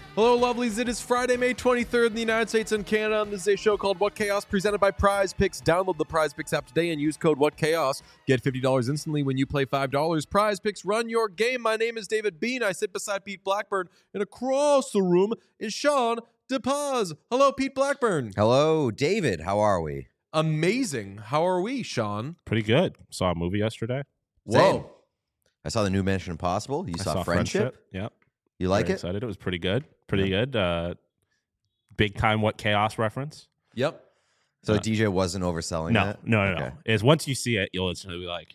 Hello, lovelies. It is Friday, May 23rd in the United States and Canada, and this is a show called What Chaos, presented by Prize Picks. Download the Prize Picks app today and use code What Chaos. Get $50 instantly when you play $5. Prize Picks, run your game. My name is David Bean. I sit beside Pete Blackburn, and across the room is Sean DePaz. Hello, Pete Blackburn. Hello, David. How are we? Amazing. How are we, Sean? Pretty good. Saw a movie yesterday. Same. I saw the new Mission Impossible. You saw Friendship? Yep. You like Very it? excited. It was pretty good. Pretty good. Big time What Chaos reference. Yep. So DJ wasn't overselling that? No. Is once you see it, you'll instantly be like,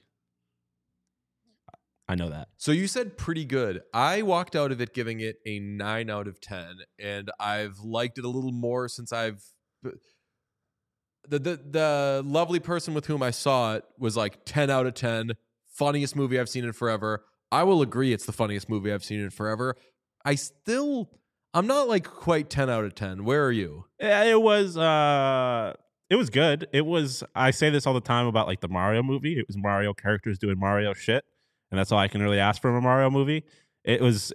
I know that. So you said pretty good. I walked out of it giving it a 9 out of 10, and I've liked it a little more since I've... The lovely person with whom I saw it was like 10 out of 10, funniest movie I've seen in forever. I will agree it's the funniest movie I've seen in forever. I'm not like quite 10 out of 10. Where are you? It was good. I say this all the time about like the Mario movie. It was Mario characters doing Mario shit, and that's all I can really ask from a Mario movie. It was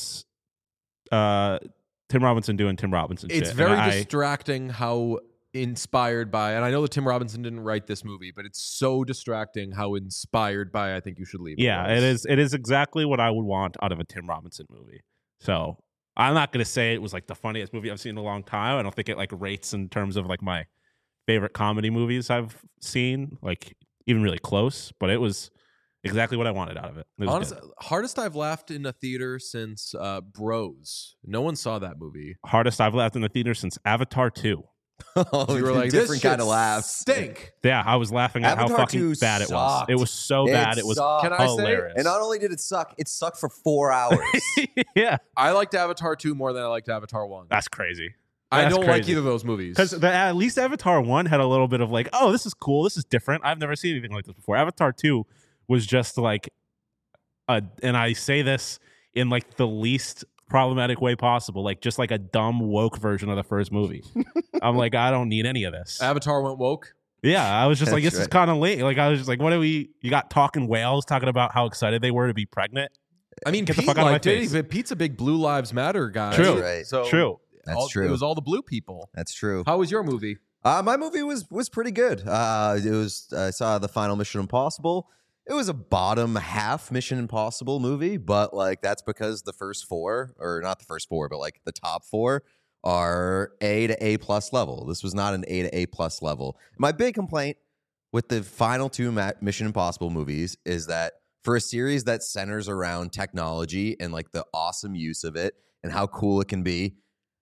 Tim Robinson doing Tim Robinson shit. It's very distracting how inspired by, and I know that Tim Robinson didn't write this movie, but it's so distracting how inspired by I Think You Should Leave. Yeah, it is exactly what I would want out of a Tim Robinson movie. So I'm not going to say it was like the funniest movie I've seen in a long time. I don't think it like rates in terms of like my favorite comedy movies I've seen, like even really close, but it was exactly what I wanted out of it. Honestly, hardest I've laughed in a theater since Bros. No one saw that movie. Hardest I've laughed in the theater since Avatar 2. Oh, you were like, different this kind of laugh. Stink. Yeah, I was laughing at Avatar how fucking 2 bad it was. sucked. It was so bad. It was Can I say- hilarious. And not only did it sucked for 4 hours. Yeah, I liked Avatar 2 more than I liked Avatar 1. that's crazy. I That's don't like crazy. either of those movies. Because at least Avatar 1 had a little bit of like, oh, this is cool. This is different. I've never seen anything like this before. Avatar 2 was just like, and I say this in like the least problematic way possible, like just like a dumb woke version of the first movie. I'm like, I don't need any of this. Avatar went woke. Yeah, I was just like, That's this is right. kind of late. Like, I was just like, what are we? You got talking whales talking about how excited they were to be pregnant. I mean, Get the Pete fuck out of my liked it. face. But Pete's a big Blue Lives Matter guy. True. That's right. So True. That's true. It was all the blue people. That's true. How was your movie? My movie was pretty good. I saw the final Mission Impossible. It was a bottom half Mission Impossible movie, but like that's because the first four, or not the first four, but like the top four are A to A plus level. This was not an A to A plus level. My big complaint with the final two Mission Impossible movies is that for a series that centers around technology and like the awesome use of it and how cool it can be,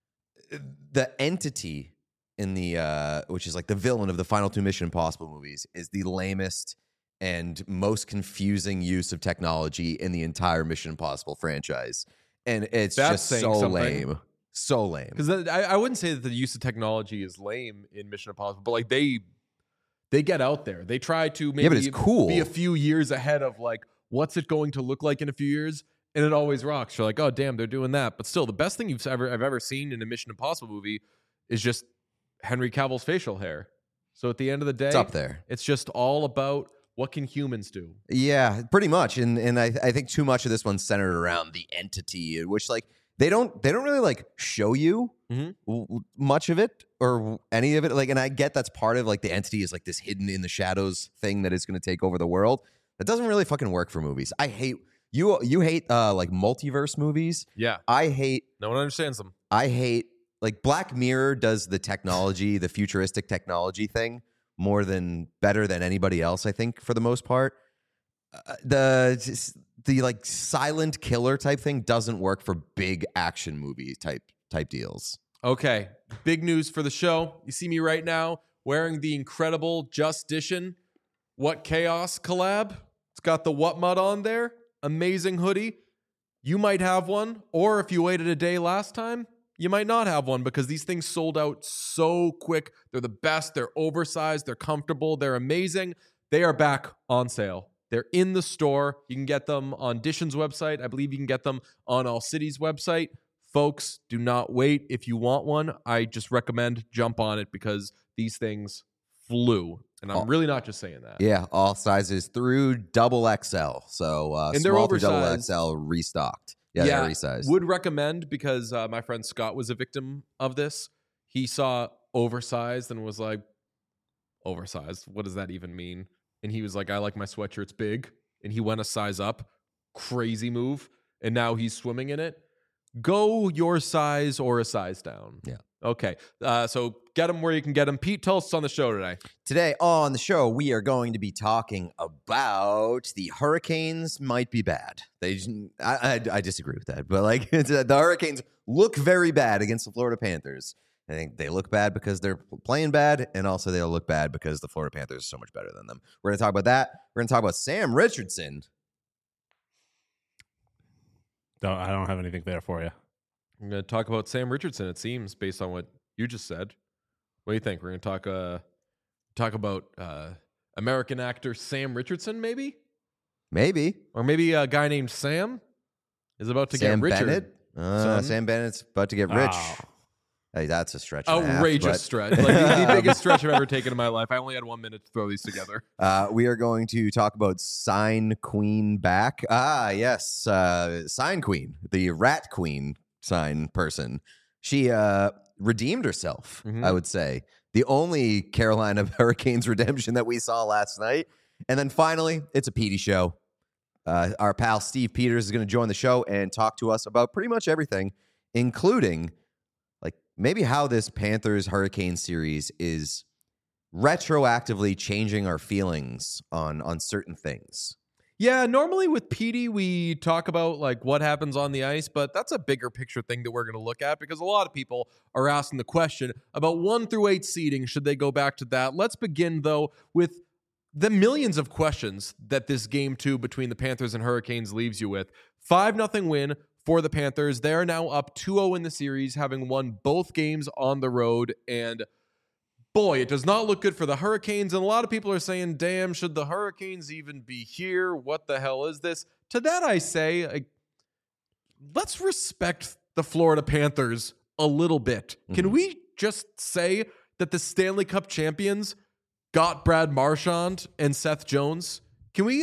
the entity in the which is like the villain of the final two Mission Impossible movies is the lamest and most confusing use of technology in the entire Mission Impossible franchise. And it's That's just saying so something. lame. So lame. Because I wouldn't say that the use of technology is lame in Mission Impossible, but like they get out there. They try to maybe but it's cool. be a few years ahead of like what's it going to look like in a few years, and it always rocks. You're like, oh damn, they're doing that. But still, the best thing I've ever seen in a Mission Impossible movie is just Henry Cavill's facial hair. So at the end of the day, It's up there. It's just all about what can humans do. Yeah, pretty much. And I think too much of this one's centered around the entity, which like they don't really like show you much of it or any of it. Like, and I get that's part of like the entity is like this hidden in the shadows thing that is going to take over the world. That doesn't really fucking work for movies. I hate you hate like multiverse movies. Yeah, No one understands them. I hate like Black Mirror does the technology, the futuristic technology thing better than anybody else, I think, for the most part. The like silent killer type thing doesn't work for big action movie type deals. Okay, big news for the show. You see me right now wearing the incredible Justition What Chaos collab. It's got the What Mud on there. Amazing hoodie. You might have one, or if you waited a day last time, you might not have one because these things sold out so quick. They're the best. They're oversized. They're comfortable. They're amazing. They are back on sale. They're in the store. You can get them on Dishon's website. I believe you can get them on All City's website. Folks, do not wait. If you want one, I just recommend jump on it because these things flew. And I'm really not just saying that. Yeah, all sizes through double XL. So And they're small through double oversized. XL restocked. Yeah, they are resized. Would recommend because my friend Scott was a victim of this. He saw oversized and was like, oversized? What does that even mean? And he was like, I like my sweatshirts big. And he went a size up. Crazy move. And now he's swimming in it. Go your size or a size down. Yeah. Okay. So get them where you can get them. Pete, tell us what's on the show today. Today on the show, we are going to be talking about the Hurricanes might be bad. I disagree with that, but like the Hurricanes look very bad against the Florida Panthers. I think they look bad because they're playing bad, and also they'll look bad because the Florida Panthers are so much better than them. We're going to talk about that. We're going to talk about Sam Richardson. I don't have anything there for you. I'm going to talk about Sam Richardson, it seems, based on what you just said. What do you think? We're going to talk about American actor Sam Richardson, maybe? Maybe. Or maybe a guy named Sam is about to Sam get richer. Bennett? Sam Bennett's about to get rich. Oh. Hey, that's a stretch. and a half, Outrageous stretch. Like the biggest stretch I've ever taken in my life. I only had 1 minute to throw these together. We are going to talk about Sign Queen back. Yes. Sign Queen, the rat queen sign person. She redeemed herself, I would say. The only Carolina Hurricanes redemption that we saw last night. And then finally, it's a Petey show. Our pal Steve Peters is going to join the show and talk to us about pretty much everything, including like maybe how this Panthers Hurricane series is retroactively changing our feelings on certain things. Yeah, normally with Petey, we talk about like what happens on the ice, but that's a bigger picture thing that we're going to look at because a lot of people are asking the question about 1 through 8 seeding. Should they go back to that? Let's begin, though, with the millions of questions that this Game 2 between the Panthers and Hurricanes leaves you with. 5-0 win for the Panthers. They're now up 2-0 in the series, having won both games on the road, and boy, it does not look good for the Hurricanes. And a lot of people are saying, damn, should the Hurricanes even be here? What the hell is this? To that I say, let's respect the Florida Panthers a little bit. Can we just say that the Stanley Cup champions got Brad Marchand and Seth Jones? Can we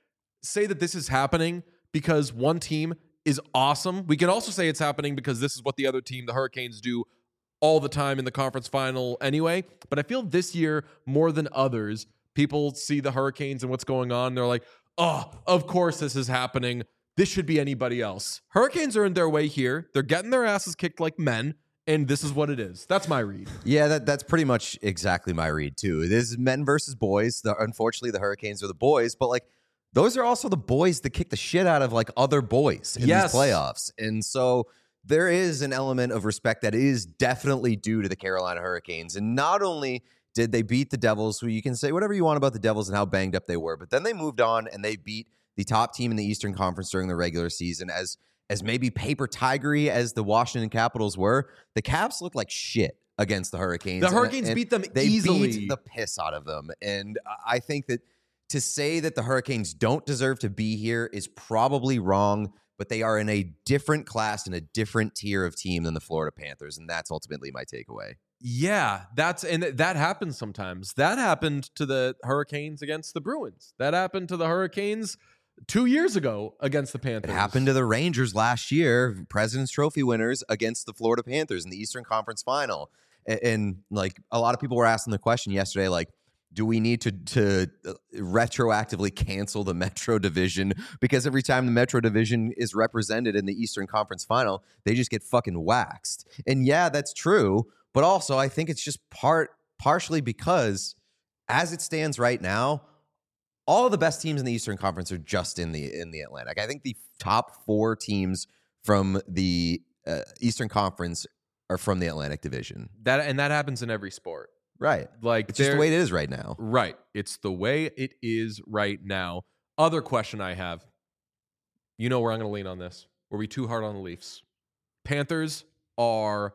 say that this is happening because one team is awesome? We can also say it's happening because this is what the other team, the Hurricanes, do all the time in the conference final anyway. But I feel this year, more than others, people see the Hurricanes and what's going on. They're like, oh, of course this is happening. This should be anybody else. Hurricanes are in their way here. They're getting their asses kicked like men, and this is what it is. That's my read. Yeah, that's pretty much exactly my read, too. This is men versus boys. Unfortunately, the Hurricanes are the boys, but like those are also the boys that kick the shit out of like other boys in these playoffs. And so there is an element of respect that is definitely due to the Carolina Hurricanes. And not only did they beat the Devils, who you can say whatever you want about the Devils and how banged up they were, but then they moved on and they beat the top team in the Eastern Conference during the regular season. As maybe paper tigery as the Washington Capitals were, the Caps looked like shit against the Hurricanes. The Hurricanes beat them easily. They beat the piss out of them. And I think that to say that the Hurricanes don't deserve to be here is probably wrong, but they are in a different class and a different tier of team than the Florida Panthers, and that's ultimately my takeaway. Yeah, that happens sometimes. That happened to the Hurricanes against the Bruins. That happened to the Hurricanes 2 years ago against the Panthers. It happened to the Rangers last year, President's Trophy winners against the Florida Panthers in the Eastern Conference Final. And like a lot of people were asking the question yesterday, like, do we need to retroactively cancel the Metro Division? Because every time the Metro Division is represented in the Eastern Conference Final, they just get fucking waxed. And yeah, that's true. But also, I think it's just partially because as it stands right now, all of the best teams in the Eastern Conference are just in the Atlantic. I think the top 4 teams from the Eastern Conference are from the Atlantic Division. That happens in every sport. Right. Like it's just the way it is right now. Right. It's the way it is right now. Other question I have. You know where I'm going to lean on this. Were we too hard on the Leafs? Panthers are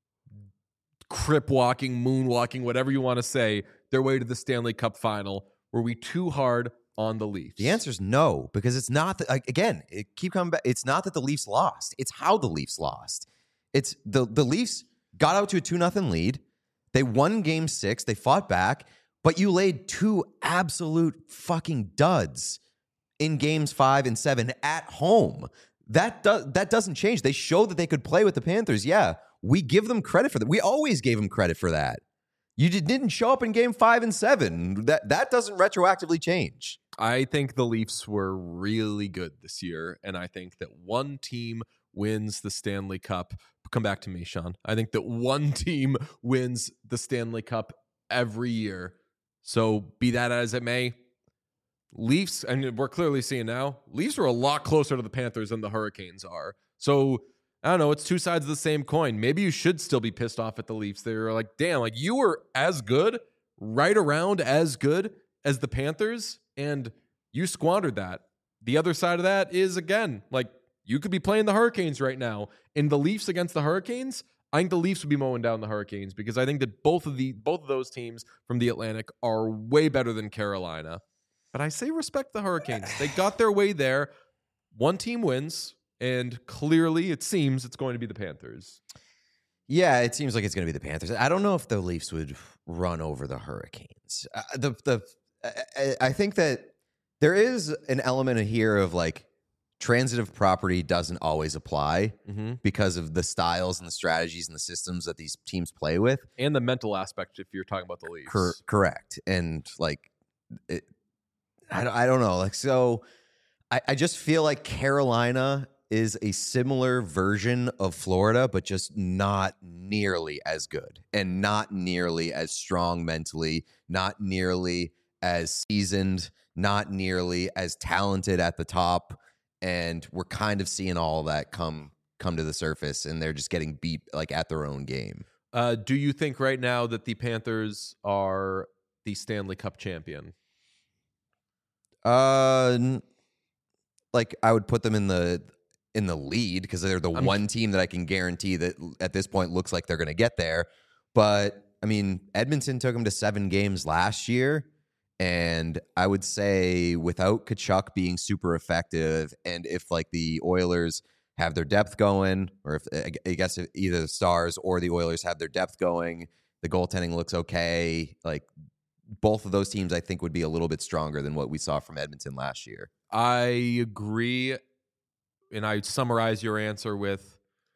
crip walking, moonwalking, whatever you want to say, their way to the Stanley Cup final. Were we too hard on the Leafs? The answer is no, because it's not that, again, keep coming back. It's not that the Leafs lost. It's how the Leafs lost. It's the Leafs got out to a 2-0 lead. They won game 6. They fought back, but you laid 2 absolute fucking duds in games 5 and 7 at home. that doesn't change. They showed that they could play with the Panthers. Yeah, we give them credit for that. We always gave them credit for that. You didn't show up in game 5 and 7. That doesn't retroactively change. I think the Leafs were really good this year, and I think that one team wins the Stanley Cup. Come back to me, Sean. I think that one team wins the Stanley Cup every year. So be that as it may, Leafs, and we're clearly seeing now, Leafs are a lot closer to the Panthers than the Hurricanes are. So I don't know, it's two sides of the same coin. Maybe you should still be pissed off at the Leafs. They're like, damn, like you were as good, right around as good as the Panthers, and you squandered that. The other side of that is, again, like you could be playing the Hurricanes right now. In the Leafs against the Hurricanes, I think the Leafs would be mowing down the Hurricanes because I think that both of those teams from the Atlantic are way better than Carolina. But I say respect the Hurricanes. They got their way there. One team wins. And clearly, it seems it's going to be the Panthers. Yeah, it seems like it's going to be the Panthers. I don't know if the Leafs would run over the Hurricanes. I think that there is an element here of like transitive property doesn't always apply because of the styles and the strategies and the systems that these teams play with. And the mental aspect if you're talking about the Leafs. Correct. And like, I don't know. Like, so I just feel like Carolina is a similar version of Florida, but just not nearly as good and not nearly as strong mentally, not nearly as seasoned, not nearly as talented at the top. And we're kind of seeing all of that come to the surface, and they're just getting beat like at their own game. Do you think right now that the Panthers are the Stanley Cup champion? Like I would put them in the lead because they're the one team that I can guarantee that at this point looks like they're going to get there. But I mean, Edmonton took them to 7 games last year. And I would say without Tkachuk being super effective, and if like the Oilers have their depth going, or if I guess if either the Stars or the Oilers have their depth going, the goaltending looks okay. Like both of those teams I think would be a little bit stronger than what we saw from Edmonton last year. I agree. And I summarize your answer with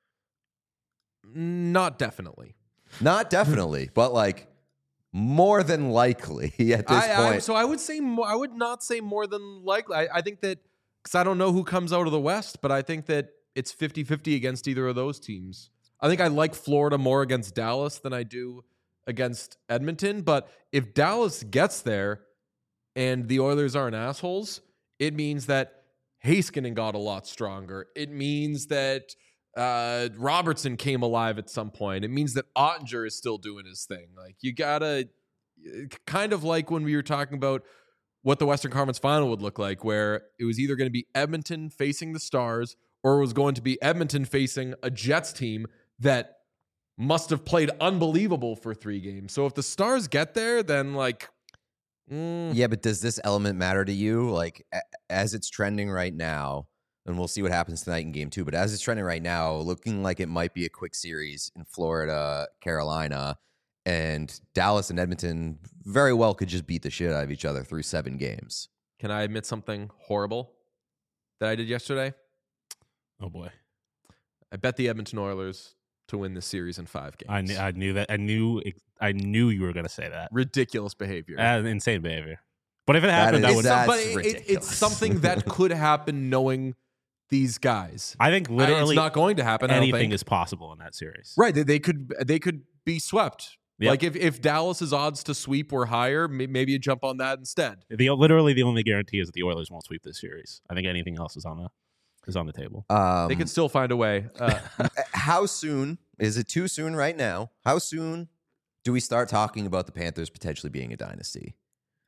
not definitely. Not definitely, but like more than likely at this point. So I would say more, I would not say more than likely. I think that, because I don't know who comes out of the West, but I think that it's 50-50 against either of those teams. I think I like Florida more against Dallas than I do against Edmonton. But if Dallas gets there and the Oilers aren't assholes, it means that Heiskanen got a lot stronger. It means that Robertson came alive at some point. It means that Ottinger is still doing his thing. Like you gotta, kind of like when we were talking about what the Western Conference Final would look like, where it was either going to be Edmonton facing the Stars or it was going to be Edmonton facing a Jets team that must have played unbelievable for 3 games. So if the Stars get there, then like... Yeah, but does this element matter to you? Like, as it's trending right now, and we'll see what happens tonight in game 2, but as it's trending right now, looking like it might be a quick series in Florida, Carolina, and Dallas and Edmonton very well could just beat the shit out of each other through 7 games. Can I admit something horrible that I did yesterday? Oh, boy. I bet the Edmonton Oilers to win this series in 5 games. I knew that. I knew you were going to say that. Ridiculous behavior. Insane behavior. But if it happened, that would. That's but ridiculous. It's something that could happen knowing these guys. I think literally it's not going to happen. Anything is possible in that series. Right. They could be swept. Yep. Like if Dallas's odds to sweep were higher, maybe you jump on that instead. Literally the only guarantee is that the Oilers won't sweep this series. I think anything else is on the table. They could still find a way. How soon? Is it too soon right now? How soon do we start talking about the Panthers potentially being a dynasty?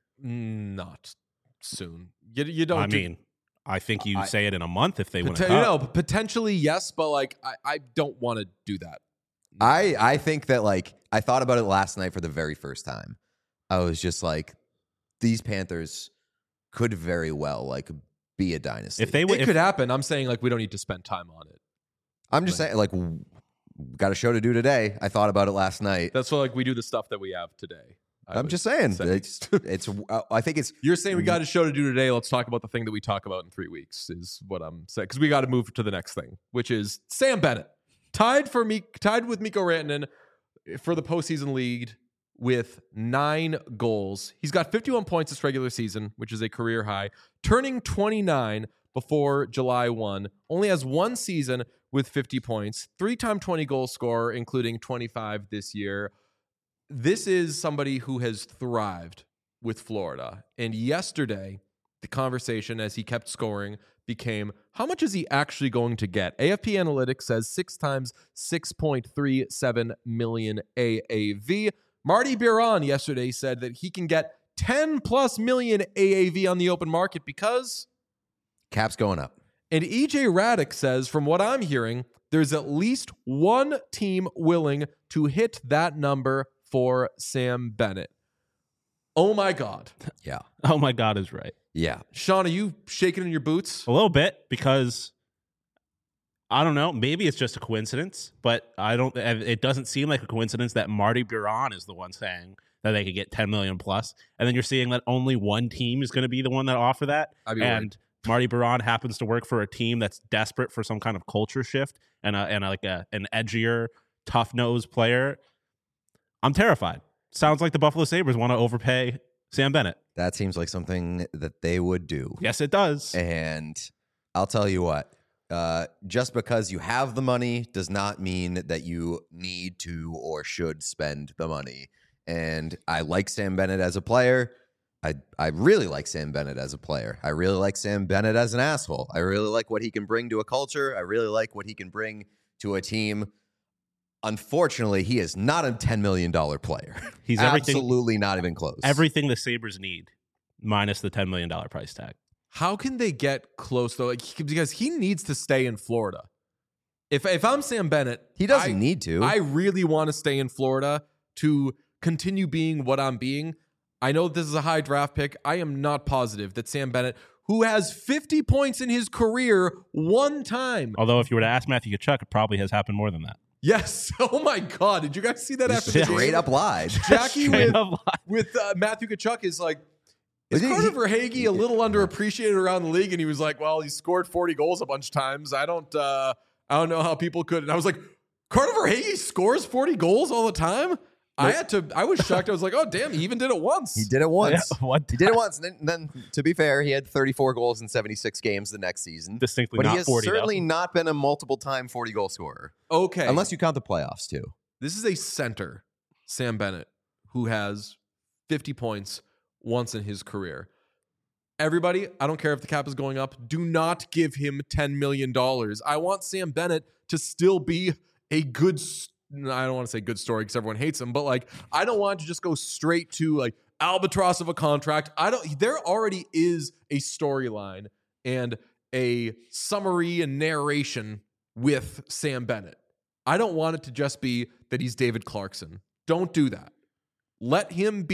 Not soon. You don't. I mean, I think you say it in a month if they win a cup. No, potentially yes, but like I don't want to do that. I think that like I thought about it last night for the very first time. I was just like, these Panthers could very well like be a dynasty. If they it could happen. I'm saying like we don't need to spend time on it. I'm just saying like got a show to do today. I thought about it last night. That's why like we do the stuff that we have today. I'm would just saying. say. It's. I think it's. You're saying we got a show to do today. Let's talk about the thing that we talk about in 3 weeks, is what I'm saying. Because we got to move to the next thing, which is Sam Bennett. Tied with Mikko Rantanen for the postseason lead with 9 goals. He's got 51 points this regular season, which is a career high. Turning 29 before July 1. Only has 1 season with 50 points. 3-time 20-goal scorer, including 25 this year. This is somebody who has thrived with Florida. And yesterday, the conversation as he kept scoring became, how much is he actually going to get? AFP Analytics says 6 times 6.37 million AAV. Marty Biron yesterday said that he can get 10 plus million AAV on the open market because Cap's going up. And EJ Radick says, from what I'm hearing, there's at least one team willing to hit that number for Sam Bennett. Oh my God. Yeah. Oh my God is right. Yeah. Sean, are you shaking in your boots? A little bit, because I don't know, maybe it's just a coincidence, but it doesn't seem like a coincidence that Marty Biron is the one saying that they could get 10 million plus. And then you're seeing that only one team is going to be the one that offer that. And Marty Biron happens to work for a team that's desperate for some kind of culture shift and an edgier, tough-nosed player. I'm terrified. Sounds like the Buffalo Sabres want to overpay Sam Bennett. That seems like something that they would do. Yes, it does. And I'll tell you what, just because you have the money does not mean that you need to or should spend the money. And I like Sam Bennett as a player. I really like Sam Bennett as a player. I really like Sam Bennett as an asshole. I really like what he can bring to a culture. I really like what he can bring to a team. Unfortunately, he is not a $10 million player. He's absolutely not even close. Everything the Sabres need, minus the $10 million price tag. How can they get close, though? Because he needs to stay in Florida. If I'm Sam Bennett, he doesn't need to. I really want to stay in Florida to continue being what I'm being. I know this is a high draft pick. I am not positive that Sam Bennett, who has 50 points in his career one time. Although if you were to ask Matthew Tkachuk, it probably has happened more than that. Yes. Oh my God. Did you guys see that after the game? Straight up lied. Jackie with Matthew Tkachuk is like, is Carter Verhaeghe a little underappreciated around the league? And he was like, well, he scored 40 goals a bunch of times. I don't know how people could. And I was like, Carter Verhaeghe scores 40 goals all the time? I was shocked. I was like, oh, damn, he even did it once. He did it once. Yeah, he did it once. And then, to be fair, he had 34 goals in 76 games the next season. Distinctly but not 40, he has certainly not been a multiple-time 40-goal scorer. Okay. Unless you count the playoffs, too. This is a center, Sam Bennett, who has 50 points once in his career. Everybody, I don't care if the cap is going up, do not give him $10 million. I want Sam Bennett to still be a good I don't want to say good story because everyone hates him, but like, I don't want to just go straight to like albatross of a contract. There already is a storyline and a summary and narration with Sam Bennett. I don't want it to just be that he's David Clarkson. Don't do that. Let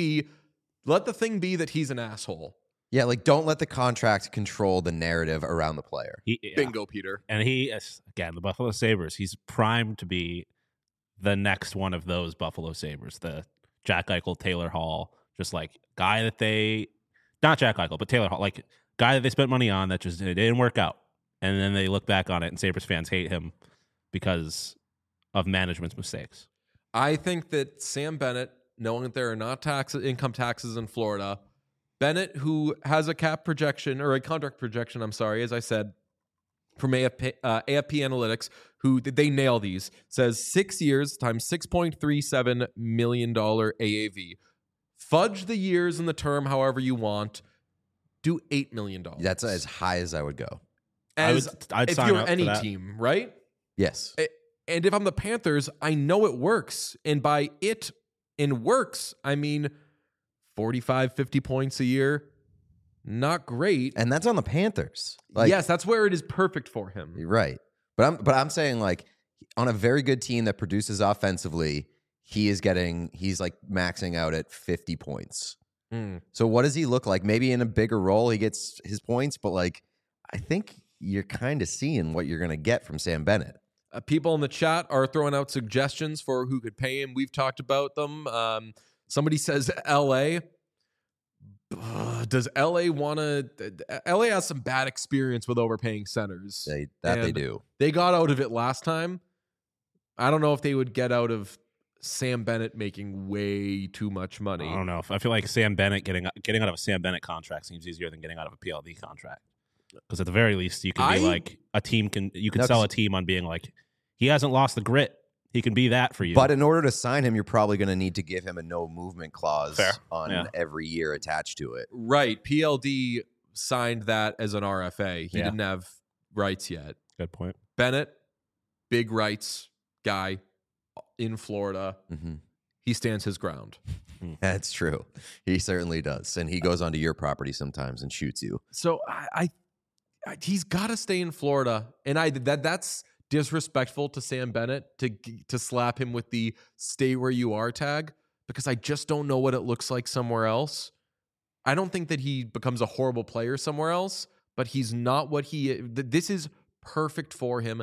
the thing be that he's an asshole. Yeah, like don't let the contract control the narrative around the player. Bingo, Peter. And again, the Buffalo Sabres, he's primed to be the next one of those Buffalo Sabres, the Jack Eichel, Taylor Hall, just like guy that not Jack Eichel, but Taylor Hall, like guy that they spent money on that just it didn't work out. And then they look back on it and Sabres fans hate him because of management's mistakes. I think that Sam Bennett, knowing that there are not income taxes in Florida, Bennett, who has a cap projection or a contract projection, I'm sorry, as I said, from AFP Analytics, who they nail these, says 6 years times $6.37 million AAV. Fudge the years and the term however you want. Do $8 million. That's as high as I would go. I'd if sign you're up any for that. team, right? Yes. And if I'm the Panthers, I know it works. And by it in works, I mean 45, 50 points a year. Not great. And that's on the Panthers. Yes, that's where it is perfect for him. You're right. But I'm saying like on a very good team that produces offensively, he's like maxing out at 50 points. So what does he look like? Maybe in a bigger role he gets his points, but like I think you're kind of seeing what you're going to get from Sam Bennett. People in the chat are throwing out suggestions for who could pay him. We've talked about them. Somebody says LA. Does LA want to? LA has some bad experience with overpaying centers. They And do. They got out of it last time. I don't know if they would get out of Sam Bennett making way too much money. I don't know. I feel like Sam Bennett getting out of a Sam Bennett contract seems easier than getting out of a PLD contract. Because at the very least, you can be like a team you can sell a team on being like, he hasn't lost the grit. He can be that for you. But in order to sign him, you're probably going to need to give him a no movement clause on every year attached to it. Right. PLD signed that as an RFA. He didn't have rights yet. Good point. Bennett, big rights guy in Florida. Mm-hmm. He stands his ground. That's true. He certainly does. And he goes onto your property sometimes and shoots you. So he's got to stay in Florida. And that's disrespectful to Sam Bennett to slap him with the stay where you are tag, because I just don't know what it looks like somewhere else. I don't think that he becomes a horrible player somewhere else, but he's not what this is perfect for him.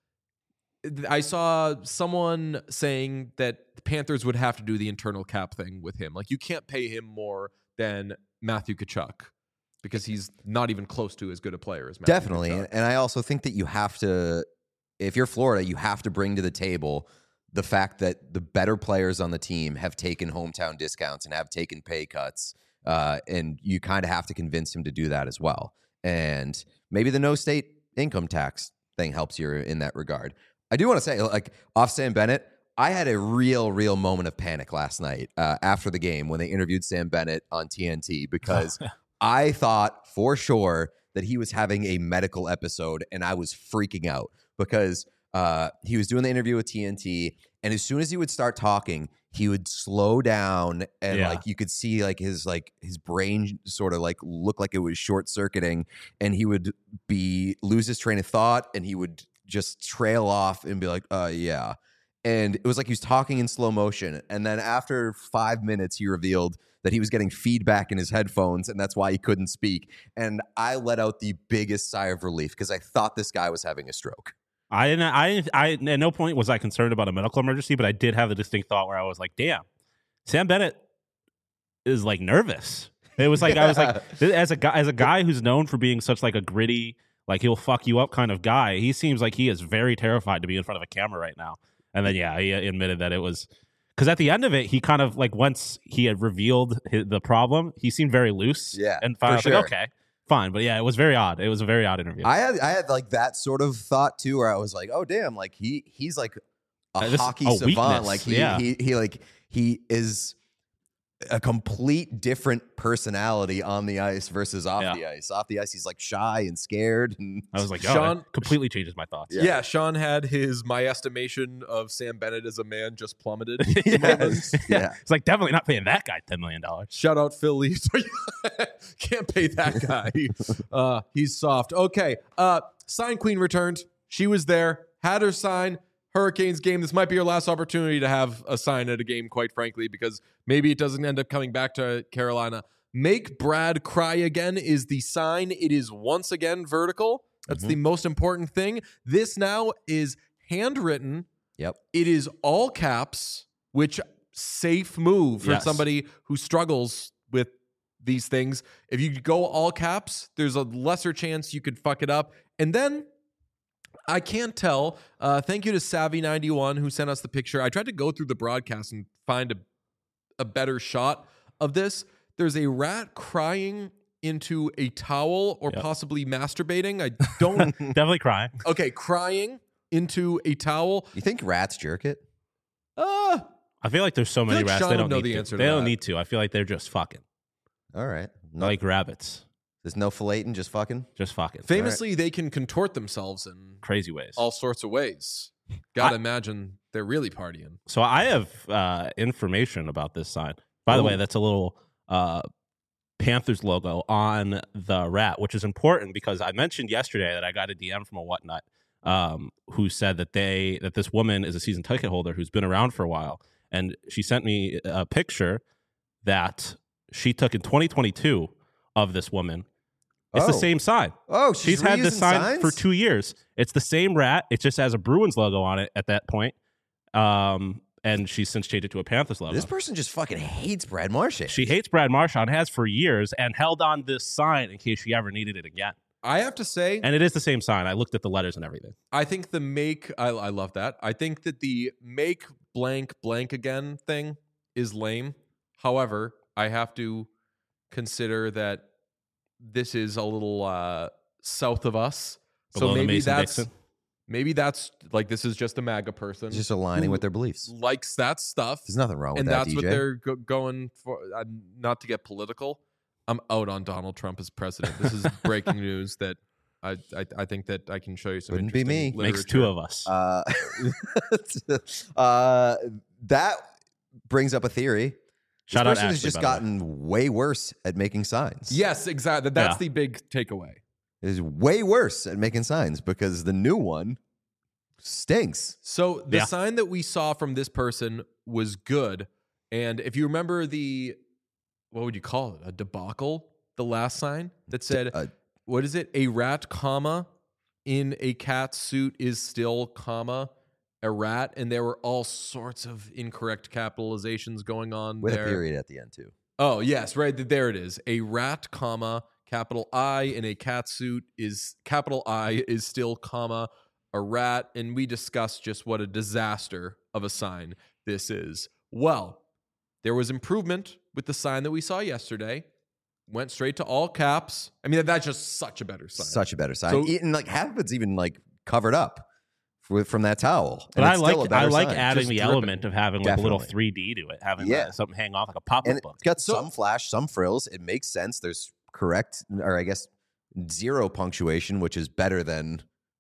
I saw someone saying that the Panthers would have to do the internal cap thing with him. Like, you can't pay him more than Matthew Tkachuk because he's not even close to as good a player as Matthew Definitely. Tkachuk. And I also think that you have to, if you're Florida, you have to bring to the table the fact that the better players on the team have taken hometown discounts and have taken pay cuts. And you kind of have to convince him to do that as well. And maybe the no state income tax thing helps you in that regard. I do want to say, like, off Sam Bennett, I had a real moment of panic last night after the game when they interviewed Sam Bennett on TNT, because I thought for sure that he was having a medical episode, and I was freaking out because he was doing the interview with TNT, and as soon as he would start talking, he would slow down, and like you could see his brain sort of like look like it was short circuiting, and he would lose his train of thought, and he would just trail off and be like, yeah. And it was like he was talking in slow motion. And then after 5 minutes, he revealed that he was getting feedback in his headphones, and that's why he couldn't speak. And I let out the biggest sigh of relief because I thought this guy was having a stroke. I at no point was I concerned about a medical emergency, but I did have the distinct thought where I was like, damn, Sam Bennett is like nervous. It was like, I was like, as a guy who's known for being such like a gritty, like he'll fuck you up kind of guy, he seems like he is very terrified to be in front of a camera right now. And then, he admitted that it was because at the end of it, he kind of like once he had revealed the problem, he seemed very loose. Yeah, and finally, sure. like, okay, fine. But yeah, it was very odd. It was a very odd interview. I had like that sort of thought too, where I was like, oh damn, like he's like a hockey savant. Weakness. Like he is a complete different personality on the ice versus off the ice. Off the ice, he's like shy and scared. And I was like, Sean it completely changes my thoughts. Yeah, Sean had my estimation of Sam Bennett as a man just plummeted. Yeah. It's like definitely not paying that guy $10 million. Shout out Phil Lee. Can't pay that guy. He's soft. Okay. Sign Queen returned. She was there, had her sign. Hurricanes game. This might be your last opportunity to have a sign at a game, quite frankly, because maybe it doesn't end up coming back to Carolina. Make Brad cry again is the sign. It is once again vertical. That's the most important thing. This now is handwritten. Yep. It is all caps, which safe move for somebody who struggles with these things. If you go all caps, there's a lesser chance you could fuck it up. And then I can't tell. Thank you to Savvy91 who sent us the picture. I tried to go through the broadcast and find a better shot of this. There's a rat crying into a towel or possibly masturbating. I don't... Definitely crying. Okay, crying into a towel. You think rats jerk it? I feel like there's so many like rats Sean they would don't know need the to. answer to They don't that. need to. I feel like they're just fucking. All right. No, Like rabbits. there's no filleting, just fucking. Just fucking. Famously, they can contort themselves in Crazy ways. all sorts of ways. Gotta imagine they're really partying. So I have information about this sign. By the way, that's a little Panthers logo on the rat, which is important because I mentioned yesterday that I got a DM from a whatnot who said that this woman is a season ticket holder who's been around for a while, and she sent me a picture that she took in 2022 of this woman. It's the same sign. Oh, She's had this sign for 2 years. It's the same rat. It just has a Bruins logo on it at that point. And and she's since changed it to a Panthers logo. This person just fucking hates Brad Marchand. She hates Brad Marchand, has for years, and held on this sign in case she ever needed it again. I have to say, And it is the same sign. I looked at the letters and everything. I think the make, I love that. I think that the make blank blank again thing is lame. However, I have to consider that this is a little south of us. Below So the maybe Mason-Dixon. that's like, this is just a MAGA person. Just aligning who with their beliefs. likes that stuff. There's nothing wrong with And that, that's DJ. what they're going for. Not to get political, I'm out on Donald Trump as president. This is breaking news that I think that I can show you some Wouldn't be interesting me. Makes literature. two of us. That brings up a theory. Shout this out person has Ashley, just by the way. gotten way worse at making signs. Yes, exactly. That's Yeah. the big takeaway. Is way worse at making signs because the new one stinks. So the Yeah. sign that we saw from this person was good. And if you remember what would you call it? A debacle? The last sign that said, what is it? A rat, comma, in a cat suit is still, comma, a rat. And there were all sorts of incorrect capitalizations going on With there. a period at the end, too. Oh, yes, right. There it is. A rat, comma, capital I in a cat suit is capital I is still, comma, a rat. And we discussed just what a disaster of a sign this is. Well, there was improvement with the sign that we saw yesterday. Went straight to all caps. I mean, that's just such a better sign. Such a better sign. So- And like half of it's even like covered up from that towel. But And I it's still a like better sign. adding Just the dripping. element of having like a little Definitely. 3D to it, having Yeah. something hang off like a pop-up And book. it's got So- some flash, some frills. It makes sense. There's correct, or I guess zero punctuation, which is better than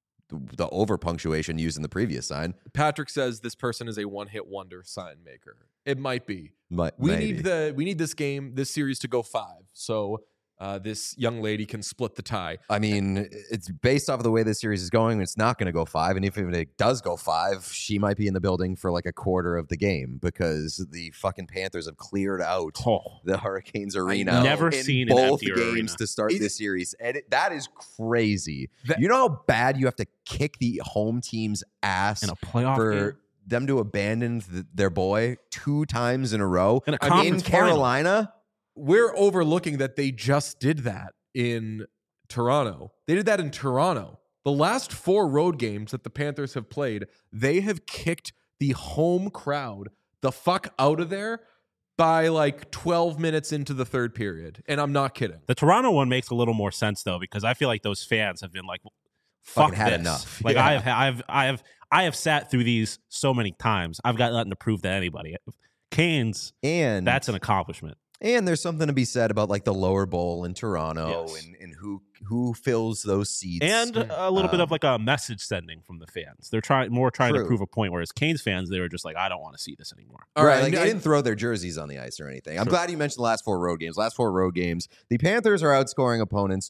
the over punctuation used in the previous sign. Patrick says this person is a one-hit wonder sign maker. It might be. But We maybe. need this series to go 5. So this young lady can split the tie. I mean, it's based off of the way this series is going. It's not going to go 5, and if it does go 5, she might be in the building for like a quarter of the game because the fucking Panthers have cleared out Oh, the Hurricanes know. arena. Never in seen an both emptier games arena. to start It- this series, and that is crazy. That- You know how bad you have to kick the home team's ass in a playoff for game. them to abandon their boy 2 times in a row In a in conference final. Carolina. We're overlooking that they just did that in Toronto. They did that in Toronto. The last 4 road games that the Panthers have played, they have kicked the home crowd the fuck out of there by like 12 minutes into the third period. And I'm not kidding. The Toronto one makes a little more sense though, because I feel like those fans have been like, "Fuck Fucking had this." enough. Like Yeah. I have sat through these so many times. I've got nothing to prove to anybody. Canes, And that's an accomplishment. And there's something to be said about like the lower bowl in Toronto Yes. and who fills those seats. And a little bit of like a message sending from the fans. They're trying to True. prove a point. Whereas Canes fans, they were just like, I don't want to see this anymore. All right, right. like I- they didn't throw their jerseys on the ice or anything. I'm Sure. glad you mentioned the last 4 road games. Last 4 road games, the Panthers are outscoring opponents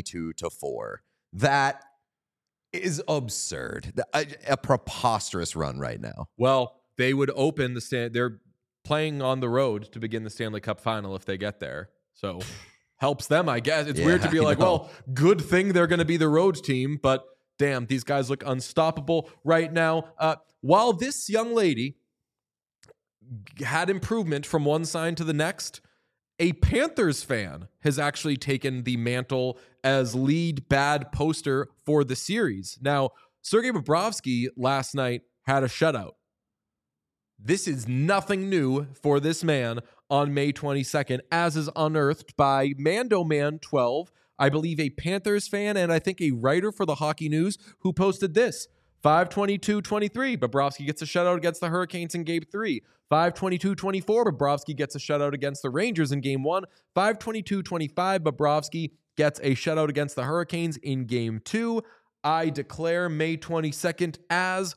22-4. That is absurd. A preposterous run right now. Well, they would open the stand. They're playing on the road to begin the Stanley Cup final if they get there. So helps them, I guess. It's Yeah, weird to be I like, know. well, good thing they're going to be the road team, but damn, these guys look unstoppable right now. While this young lady had improvement from one sign to the next, a Panthers fan has actually taken the mantle as lead bad poster for the series. Now, Sergei Bobrovsky last night had a shutout. This is nothing new for this man on May 22nd, as is unearthed by Mando Man 12, I believe a Panthers fan and I think a writer for the Hockey News who posted this. 5:22:23, Bobrovsky gets a shutout against the Hurricanes in Game 3. 5:22:24, Bobrovsky gets a shutout against the Rangers in Game 1. 5:22:25, Bobrovsky gets a shutout against the Hurricanes in Game 2. I declare May 22nd as,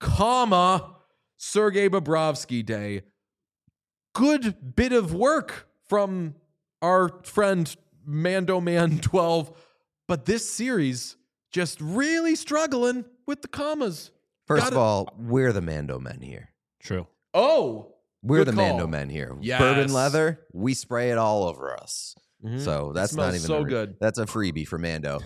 Sergei Bobrovsky Day. Good bit of work from our friend Mando Man 12, but this series just really struggling with the commas. First Gotta- of all, we're the Mando men here. True. Oh, We're good the call. Mando men here. Yes. Bourbon leather, we spray it all over us. Mhm. So that's smells not even so good. That's a freebie for Mando.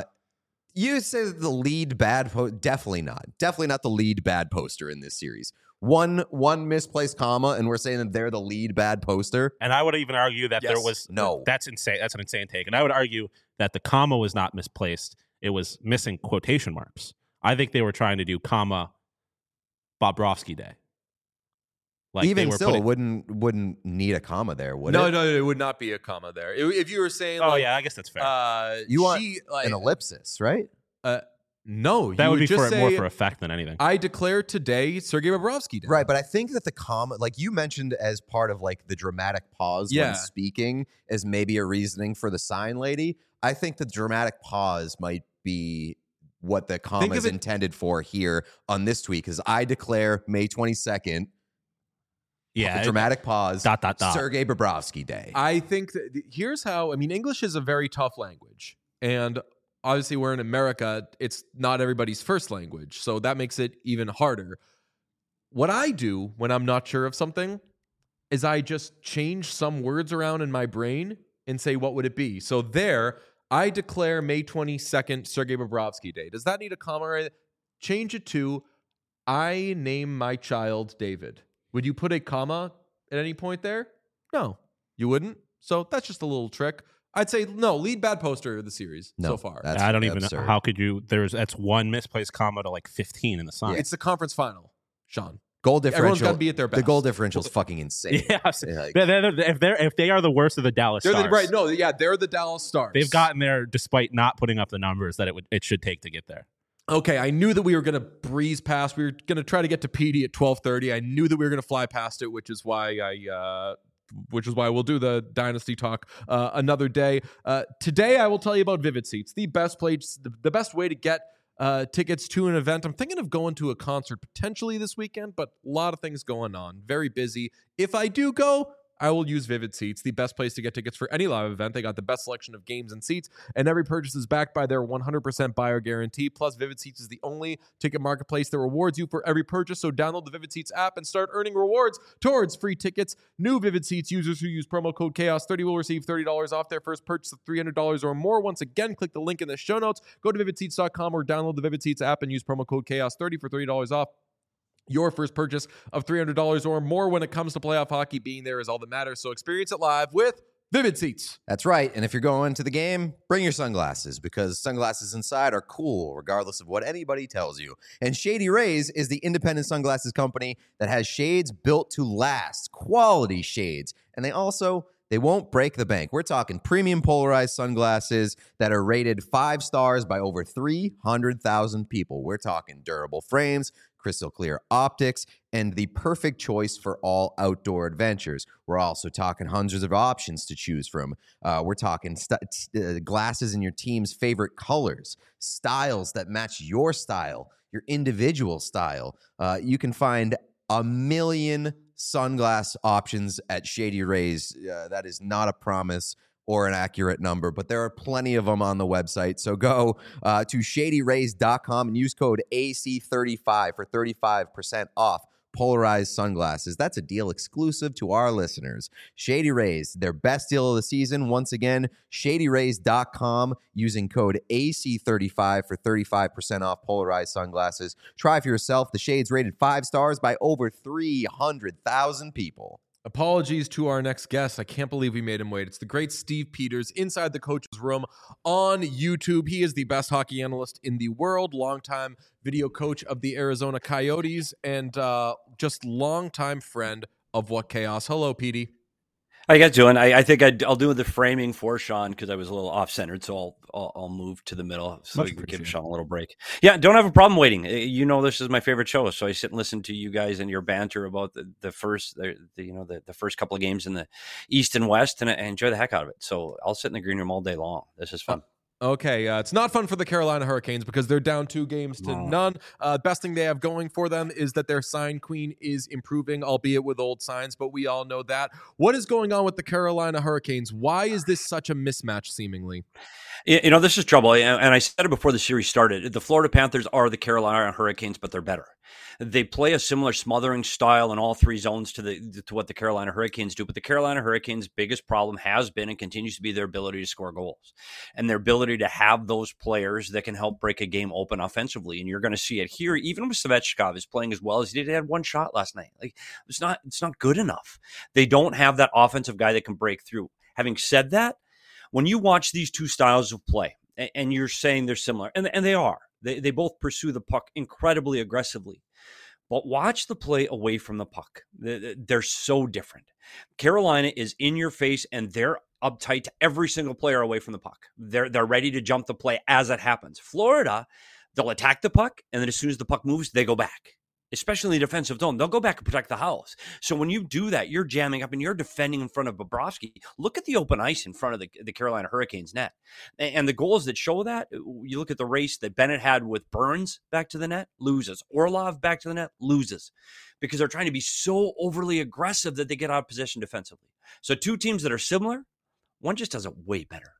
You say the lead bad definitely not the lead bad poster in this series. One misplaced comma, and we're saying that they're the lead bad poster. And I would even argue that there Yes. was No. That's insane. That's an insane take. And I would argue that the comma was not misplaced. It was missing quotation marks. I think they were trying to do comma Bobrovsky Day. Like Even they were still, putting, wouldn't need a comma there, would No, it? no, it would not be a comma there. If you were saying, oh like, yeah, I guess that's fair. You want like, an ellipsis, right? no, that you would be just more say, for effect than anything. I declare today Sergei Bobrovsky Day. Right, but I think that the comma, like you mentioned as part of like the dramatic pause Yeah. when speaking as maybe a reasoning for the sign lady, I think the dramatic pause might be what the comma Think of is it- intended for here on this tweet, because I declare May 22nd, yeah, dramatic pause, dot, dot, dot. Sergei Bobrovsky Day. I think that here's how. I mean, English is a very tough language, and obviously we're in America. It's not everybody's first language, so that makes it even harder. What I do when I'm not sure of something is I just change some words around in my brain and say, what would it be? So there, I declare May 22nd Sergei Bobrovsky Day. Does that need a comma? Right? Change it to, I name my child David. Would you put a comma at any point there? No, you wouldn't. So that's just a little trick. I'd say no, lead bad poster of the series No, so far. that's I don't even know. absurd. How could you? That's one misplaced comma to like 15 in the sign. It's the conference final, Sean. Goal Everyone's differential. got to be at their best. The goal differential is fucking insane. Yeah, Like- if they are the worst of the Dallas They're Stars, right. No, yeah, they're the Dallas Stars. they've gotten there despite not putting up the numbers that it should take to get there. Okay, I knew that we were going to breeze past. We were going to try to get to PD at 12:30. I knew that we were going to fly past it, which is why we'll do the Dynasty talk another day. Today, I will tell you about Vivid Seats, the best place, the best way to get tickets to an event. I'm thinking of going to a concert potentially this weekend, but a lot of things going on. Very busy. If I do go, I will use Vivid Seats, the best place to get tickets for any live event. They got the best selection of games and seats, and every purchase is backed by their 100% buyer guarantee. Plus, Vivid Seats is the only ticket marketplace that rewards you for every purchase. So download the Vivid Seats app and start earning rewards towards free tickets. New Vivid Seats users who use promo code CHAOS30 will receive $30 off their first purchase of $300 or more. Once again, click the link in the show notes. Go to vividseats.com or download the Vivid Seats app and use promo code CHAOS30 for $30 off your first purchase of $300 or more. When it comes to playoff hockey, being there is all that matters. So experience it live with Vivid Seats. That's right. And if you're going to the game, bring your sunglasses, because sunglasses inside are cool regardless of what anybody tells you. And Shady Rays is the independent sunglasses company that has shades built to last, quality shades. And they won't break the bank. We're talking premium polarized sunglasses that are rated 5 stars by over 300,000 people. We're talking durable frames, crystal clear optics, and the perfect choice for all outdoor adventures. We're also talking hundreds of options to choose from. We're talking glasses in your team's favorite colors, styles that match your style, your individual style. You can find a million sunglass options at Shady Rays. That is not a promise or an accurate number, but there are plenty of them on the website. So go to shadyrays.com and use code AC35 for 35% off polarized sunglasses. That's a deal exclusive to our listeners. Shady Rays, their best deal of the season. Once again, shadyrays.com using code AC35 for 35% off polarized sunglasses. Try for yourself. The shades rated 5 stars by over 300,000 people. Apologies to our next guest. I can't believe we made him wait. It's the great Steve Peters inside the coach's room on YouTube. He is the best hockey analyst in the world, longtime video coach of the Arizona Coyotes, and just longtime friend of What Chaos. Hello, Petey. How you guys doing? I think I'll do the framing for Sean because I was a little off-centered, so I'll move to the middle so we can give Sean a little break. Yeah, don't have a problem waiting. You know, this is my favorite show, so I sit and listen to you guys and your banter about the first couple of games in the East and West, and I enjoy the heck out of it. So I'll sit in the green room all day long. This is fun. Okay, it's not fun for the Carolina Hurricanes because they're down 2 games to none. Best thing they have going for them is that their sign queen is improving, albeit with old signs, but we all know that. What is going on with the Carolina Hurricanes? Why is this such a mismatch, seemingly? You know, this is trouble, and I said it before the series started. The Florida Panthers are the Carolina Hurricanes, but they're better. They play a similar smothering style in all three zones to what the Carolina Hurricanes do. But the Carolina Hurricanes' biggest problem has been and continues to be their ability to score goals and their ability to have those players that can help break a game open offensively. And you're going to see it here, even with Svechnikov is playing as well as he did. He had one shot last night. Like, it's not good enough. They don't have that offensive guy that can break through. Having said that, when you watch these two styles of play, and you're saying they're similar, and they are, they both pursue the puck incredibly aggressively. But watch the play away from the puck. They're so different. Carolina is in your face, and they're uptight to every single player away from the puck. They're ready to jump the play as it happens. Florida, they'll attack the puck, and then as soon as the puck moves, they go back. Especially in the defensive zone, they'll go back and protect the house. So when you do that, you're jamming up and you're defending in front of Bobrovsky. Look at the open ice in front of the Carolina Hurricanes net. And the goals that show that, you look at the race that Bennett had with Burns back to the net, loses. Orlov back to the net, loses. Because they're trying to be so overly aggressive that they get out of position defensively. So two teams that are similar, one just does it way better.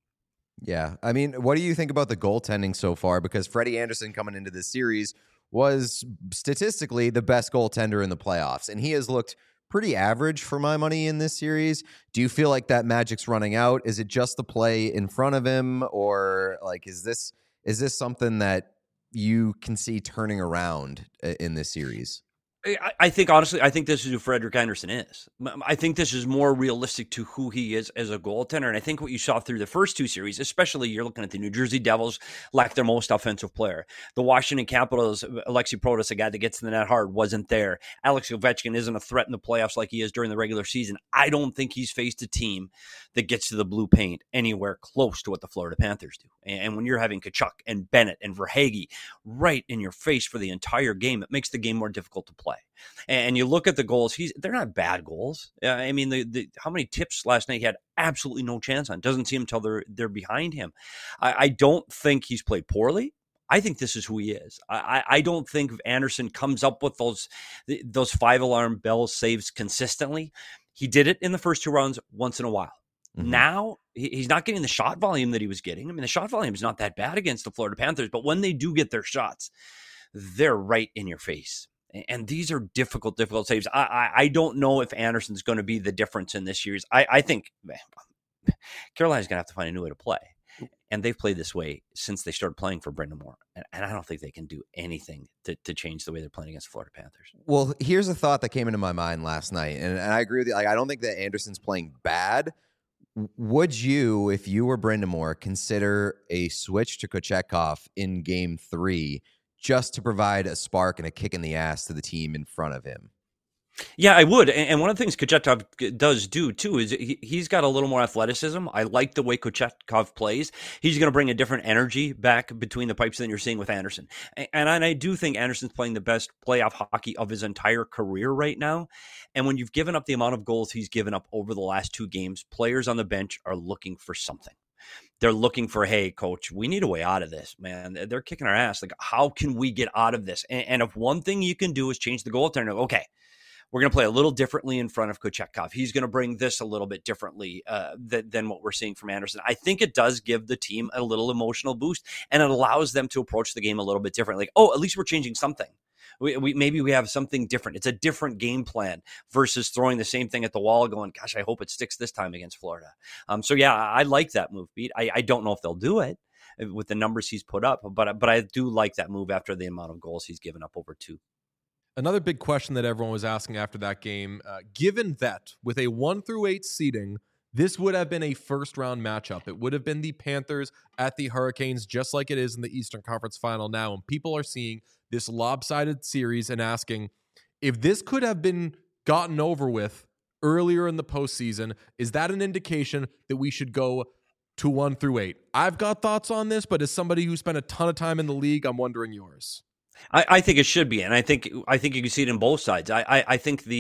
Yeah. I mean, what do you think about the goaltending so far? Because Freddie Andersen coming into this series was statistically the best goaltender in the playoffs, and he has looked pretty average for my money in this series. Do you feel like that magic's running out? Is it just the play in front of him, or like is this something that you can see turning around in this series? I think, honestly, I think this is who Frederik Andersen is. I think this is more realistic to who he is as a goaltender. And I think what you saw through the first two series, especially you're looking at the New Jersey Devils, lack their most offensive player. The Washington Capitals, Alexei Protas, a guy that gets in the net hard, wasn't there. Alex Ovechkin isn't a threat in the playoffs like he is during the regular season. I don't think he's faced a team that gets to the blue paint anywhere close to what the Florida Panthers do. And when you're having Tkachuk and Bennett and Verhaeghe right in your face for the entire game, it makes the game more difficult to play. And you look at the goals; they're not bad goals. I mean, the how many tips last night he had absolutely no chance on. Doesn't see him until they're behind him. I don't think he's played poorly. I think this is who he is. I don't think Andersen comes up with those 5-alarm bell saves consistently. He did it in the first two rounds once in a while. Mm-hmm. Now he's not getting the shot volume that he was getting. I mean, the shot volume is not that bad against the Florida Panthers, but when they do get their shots, they're right in your face. And these are difficult saves. I don't know if Andersen's going to be the difference in this series. I think Carolina's going to have to find a new way to play. And they've played this way since they started playing for Brendan Moore. And I don't think they can do anything to change the way they're playing against the Florida Panthers. Well, here's a thought that came into my mind last night. And I agree with you. Like, I don't think that Andersen's playing bad. Would you, if you were Brendan Moore, consider a switch to Kochetkov in Game 3 just to provide a spark and a kick in the ass to the team in front of him? Yeah, I would. And one of the things Kochetkov does do, too, is he's got a little more athleticism. I like the way Kochetkov plays. He's going to bring a different energy back between the pipes than you're seeing with Andersen. And I do think Andersen's playing the best playoff hockey of his entire career right now. And when you've given up the amount of goals he's given up over the last two games, players on the bench are looking for something. They're looking for, hey, coach, we need a way out of this, man. They're kicking our ass. Like, how can we get out of this? And if one thing you can do is change the goaltender, okay, we're going to play a little differently in front of Kochetkov. He's going to bring this a little bit differently than what we're seeing from Andersen. I think it does give the team a little emotional boost, and it allows them to approach the game a little bit differently. Like, oh, at least we're changing something. Maybe we have something different. It's a different game plan versus throwing the same thing at the wall going, gosh, I hope it sticks this time against Florida. So, yeah, I like that move, Pete. I don't know if they'll do it with the numbers he's put up, but I do like that move after the amount of goals he's given up over two. Another big question that everyone was asking after that game, given that with a 1-8 seeding, this would have been a first-round matchup. It would have been the Panthers at the Hurricanes, just like it is in the Eastern Conference Final now. And people are seeing this lopsided series and asking, if this could have been gotten over with earlier in the postseason, is that an indication that we should go to 1-8? I've got thoughts on this, but as somebody who spent a ton of time in the league, I'm wondering yours. I think it should be, and I think you can see it in both sides. I think the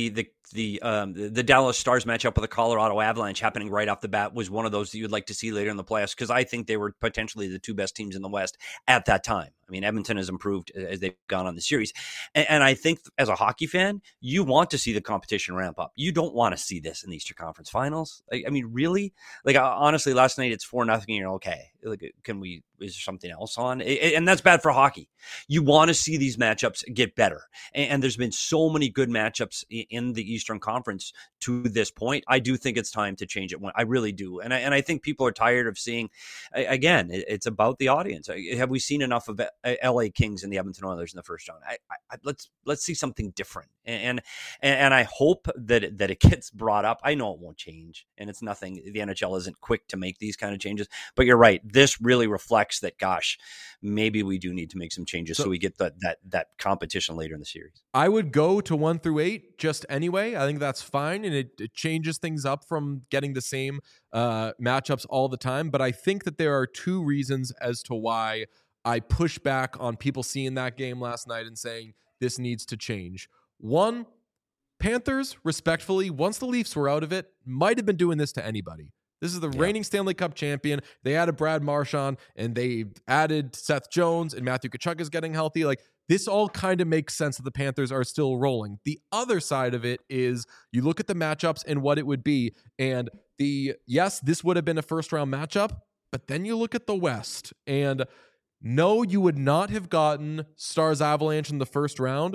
the Dallas Stars matchup with the Colorado Avalanche happening right off the bat was one of those that you would like to see later in the playoffs, because I think they were potentially the two best teams in the West at that time. I mean, Edmonton has improved as they've gone on the series. And I think as a hockey fan, you want to see the competition ramp up. You don't want to see this in the Eastern Conference Finals. I mean, really? Like, honestly, last night it's 4-0 and you're okay. Like, is there something else on? And that's bad for hockey. You want to see these matchups get better. And there's been so many good matchups in the Eastern Conference to this point. I do think it's time to change it. I really do. And I think people are tired of seeing, again, it's about the audience. Have we seen enough of LA Kings and the Edmonton Oilers in the first round? Let's see something different. And I hope that it gets brought up. I know it won't change, and it's nothing. The NHL isn't quick to make these kind of changes, but you're right. This really reflects that, gosh, maybe we do need to make some changes so we get that competition later in the series. I would go to 1 through 8 just anyway. I think that's fine, and it changes things up from getting the same matchups all the time. But I think that there are two reasons as to why I push back on people seeing that game last night and saying this needs to change. One, Panthers, respectfully, once the Leafs were out of it, might have been doing this to anybody. This is the reigning Stanley Cup champion. They added Brad Marchand, and they added Seth Jones, and Matthew Tkachuk is getting healthy. Like, this all kind of makes sense that the Panthers are still rolling. The other side of it is you look at the matchups and what it would be. And yes, this would have been a first-round matchup, but then you look at the West, and no, you would not have gotten Stars Avalanche in the first round.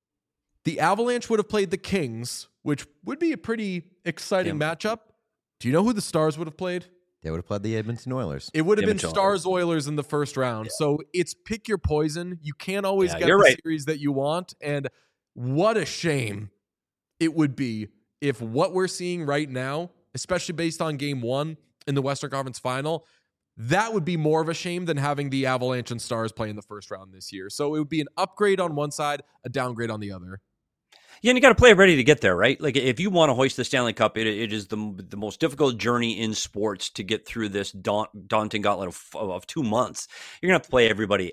The Avalanche would have played the Kings, which would be a pretty exciting matchup. Do you know who the Stars would have played? They would have played the Edmonton Oilers. It would have been Stars Oilers in the first round. So it's pick your poison. You can't always get the series that you want. And what a shame it would be if what we're seeing right now, especially based on game 1 in the Western Conference Final, that would be more of a shame than having the Avalanche and Stars play in the first round this year. So it would be an upgrade on one side, a downgrade on the other. Yeah, and you got to play ready to get there, right? Like, if you want to hoist the Stanley Cup, it is the most difficult journey in sports to get through this daunting gauntlet of 2 months. You're going to have to play everybody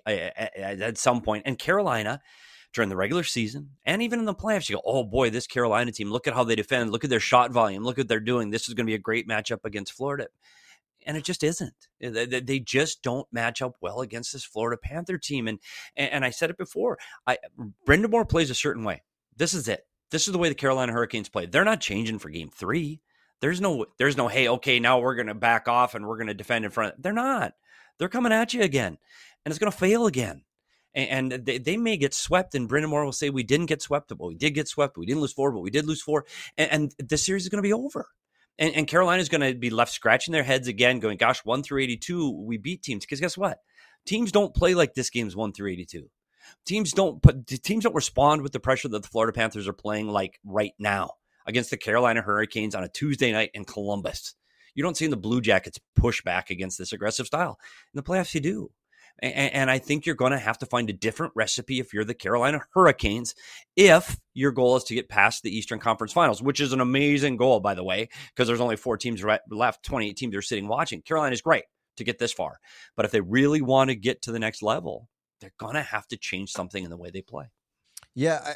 at some point. And Carolina, during the regular season and even in the playoffs, you go, oh boy, this Carolina team, look at how they defend. Look at their shot volume. Look what they're doing. This is going to be a great matchup against Florida. And it just isn't. They just don't match up well against this Florida Panther team. And I said it before, Brendan Moore plays a certain way. This is it. This is the way the Carolina Hurricanes play. They're not changing for game 3. There's no, hey, okay, now we're going to back off and we're going to defend in front. They're not. They're coming at you again, and it's going to fail again. And they may get swept, and Brendan Moore will say, we didn't get swept, but we did get swept. We didn't lose 4, but we did lose 4. And the series is going to be over. And Carolina's going to be left scratching their heads again, going, gosh, 1 through 82, we beat teams. Because guess what? Teams don't play like this game's 1 through 82. Teams don't respond with the pressure that the Florida Panthers are playing like right now against the Carolina Hurricanes on a Tuesday night in Columbus. You don't see the Blue Jackets push back against this aggressive style. In the playoffs, you do. And I think you're going to have to find a different recipe if you're the Carolina Hurricanes, if your goal is to get past the Eastern Conference Finals, which is an amazing goal, by the way, because there's only 4 teams left, 28 teams are sitting watching. Carolina's great to get this far. But if they really want to get to the next level, they're going to have to change something in the way they play. Yeah,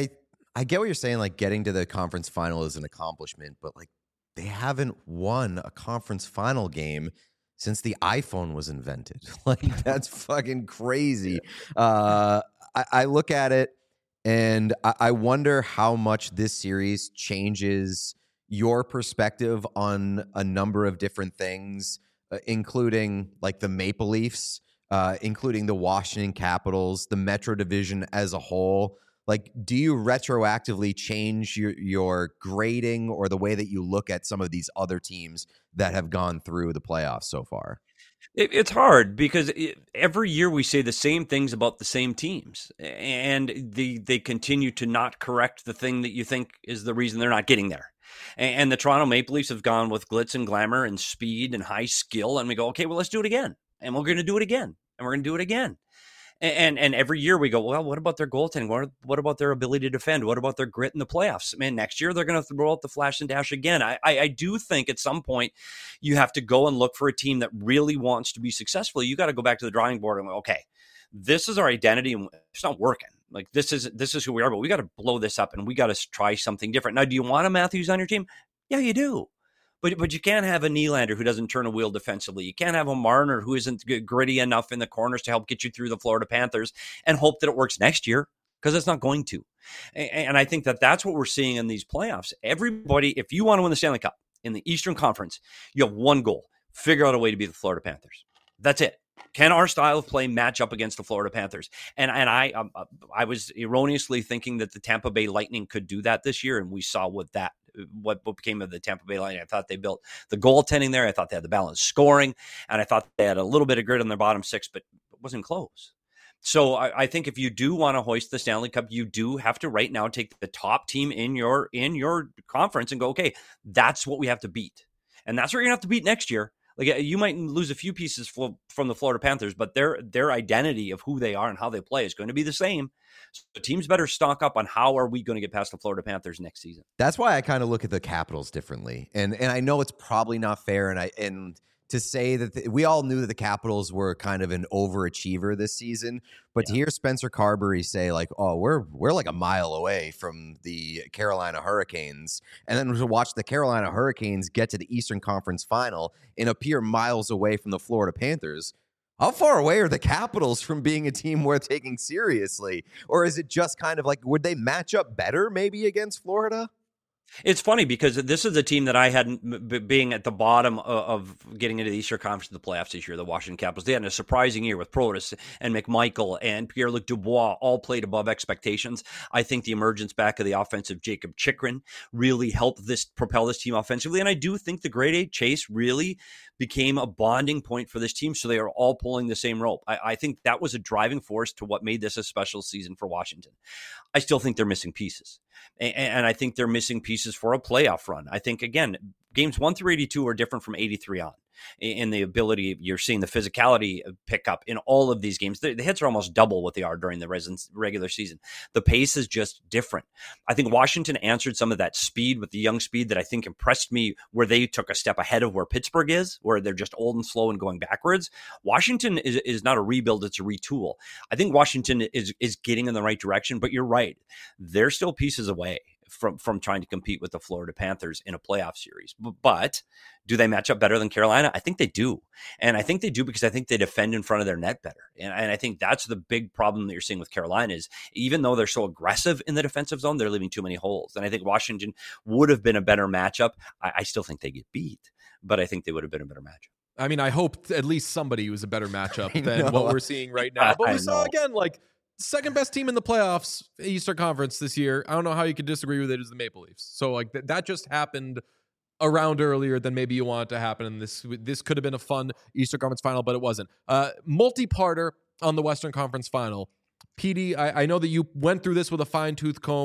I get what you're saying. Like, getting to the conference final is an accomplishment, but like, they haven't won a conference final game since the iPhone was invented. Like, that's fucking crazy. I look at it and I wonder how much this series changes your perspective on a number of different things, including like the Maple Leafs, including the Washington Capitals, the Metro Division as a whole. Like, do you retroactively change your grading or the way that you look at some of these other teams that have gone through the playoffs so far? It's hard because every year we say the same things about the same teams, and they continue to not correct the thing that you think is the reason they're not getting there. And the Toronto Maple Leafs have gone with glitz and glamour and speed and high skill, and we go, okay, well, let's do it again. And we're going to do it again. And we're going to do it again. And every year we go, well, what about their goaltending? What about their ability to defend? What about their grit in the playoffs? Man, next year they're going to throw out the flash and dash again. I do think at some point you have to go and look for a team that really wants to be successful. You got to go back to the drawing board and go, okay, this is our identity and it's not working. Like this is who we are, but we got to blow this up and we got to try something different. Now, do you want a Matthews on your team? Yeah, you do. But you can't have a Nylander who doesn't turn a wheel defensively. You can't have a Marner who isn't gritty enough in the corners to help get you through the Florida Panthers and hope that it works next year, because it's not going to. And I think that that's what we're seeing in these playoffs. Everybody, if you want to win the Stanley Cup in the Eastern Conference, you have one goal: figure out a way to beat the Florida Panthers. That's it. Can our style of play match up against the Florida Panthers? And I was erroneously thinking that the Tampa Bay Lightning could do that this year, and we saw what became of the Tampa Bay Lightning. I thought they built the goaltending there. I thought they had the balanced scoring, and I thought they had a little bit of grit on their bottom six, but it wasn't close. So I think if you do want to hoist the Stanley Cup, you do have to right now take the top team in your conference and go, okay, that's what we have to beat. And that's what you're going to have to beat next year. Like, you might lose a few pieces from the Florida Panthers, but their identity of who they are and how they play is going to be the same. So teams better stock up on how are we going to get past the Florida Panthers next season. That's why I kind of look at the Capitals differently. And I know it's probably not fair, and to say that we all knew that the Capitals were kind of an overachiever this season, but to hear Spencer Carberry say like, "Oh, we're like a mile away from the Carolina Hurricanes," and then to watch the Carolina Hurricanes get to the Eastern Conference Final and appear miles away from the Florida Panthers. How far away are the Capitals from being a team worth taking seriously? Or is it just kind of like, would they match up better maybe against Florida? It's funny because this is a team that I hadn't, being at the bottom of getting into the Eastern Conference of the playoffs this year, the Washington Capitals. They had a surprising year with Protas and McMichael and Pierre-Luc Dubois, all played above expectations. I think the emergence back of the offensive Jacob Chychrun really helped propel this team offensively. And I do think the grade A chase really became a bonding point for this team. So they are all pulling the same rope. I think that was a driving force to what made this a special season for Washington. I still think they're missing pieces. And I think they're missing pieces for a playoff run. I think, again, games 1 through 82 are different from 83 on. In the ability, you're seeing the physicality pick up in all of these games. The hits are almost double what they are during the regular season. The pace is just different. I think Washington answered some of that speed with the young speed that I think impressed me, where they took a step ahead of where Pittsburgh is, where they're just old and slow and going backwards. Washington is not a rebuild, it's a retool. I think Washington is getting in the right direction, but you're right. They're still pieces away from trying to compete with the Florida Panthers in a playoff series. But do they match up better than Carolina? I think they do. And I think they do because I think they defend in front of their net better. And I think that's the big problem that you're seeing with Carolina is, even though they're so aggressive in the defensive zone, they're leaving too many holes. And I think Washington would have been a better matchup. I still think they get beat, but I think they would have been a better matchup. I mean, I hope at least somebody was a better matchup than what we're seeing right now. But we saw, again, like, second best team in the playoffs, Eastern Conference this year. I don't know how you could disagree with it, is the Maple Leafs. So like that just happened around earlier than maybe you want it to happen. And this could have been a fun Eastern Conference final, but it wasn't. Multi-parter on the Western Conference final. PD, I know that you went through this with a fine-tooth comb.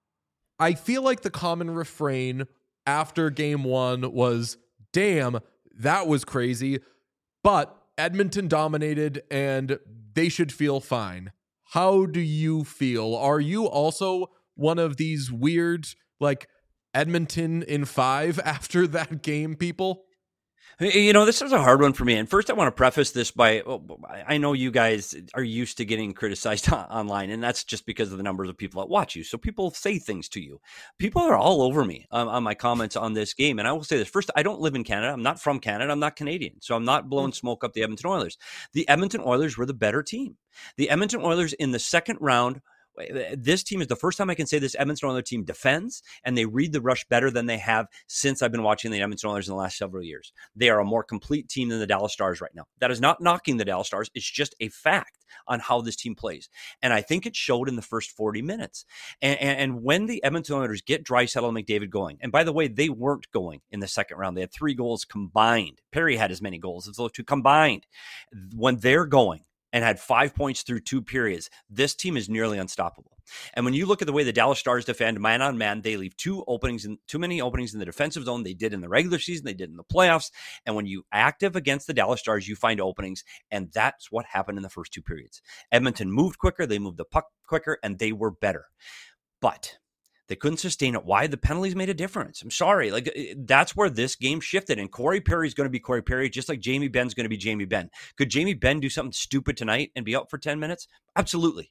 I feel like the common refrain after game one was, damn, that was crazy. But Edmonton dominated and they should feel fine. How do you feel? Are you also one of these weird, like, Edmonton in 5 after that game people? You know, this is a hard one for me. And first, I want to preface this by, I know you guys are used to getting criticized online, and that's just because of the numbers of people that watch you. So people say things to you. People are all over me on my comments on this game. And I will say this. First, I don't live in Canada. I'm not from Canada. I'm not Canadian. So I'm not blowing smoke up the Edmonton Oilers. The Edmonton Oilers were the better team. The Edmonton Oilers in the second round, this team is the first time I can say this Edmonton Oilers team defends, and they read the rush better than they have since I've been watching the Edmonton Oilers in the last several years. They are a more complete team than the Dallas Stars right now. That is not knocking the Dallas Stars. It's just a fact on how this team plays. And I think it showed in the first 40 minutes. And when the Edmonton Oilers get Draisaitl and McDavid going, and by the way, they weren't going in the second round. They had 3 goals combined. Perry had as many goals as those two combined. When they're going, and had 5 points through 2 periods, this team is nearly unstoppable. And when you look at the way the Dallas Stars defend man on man, they leave too many openings in the defensive zone. They did in the regular season, they did in the playoffs. And when you active against the Dallas Stars, you find openings, and that's what happened in the first 2 periods. Edmonton moved quicker, they moved the puck quicker, and they were better. But they couldn't sustain it. Why? The penalties made a difference. I'm sorry. Like, that's where this game shifted. And Corey Perry is going to be Corey Perry, just like Jamie Benn's going to be Jamie Benn. Could Jamie Benn do something stupid tonight and be out for 10 minutes? Absolutely.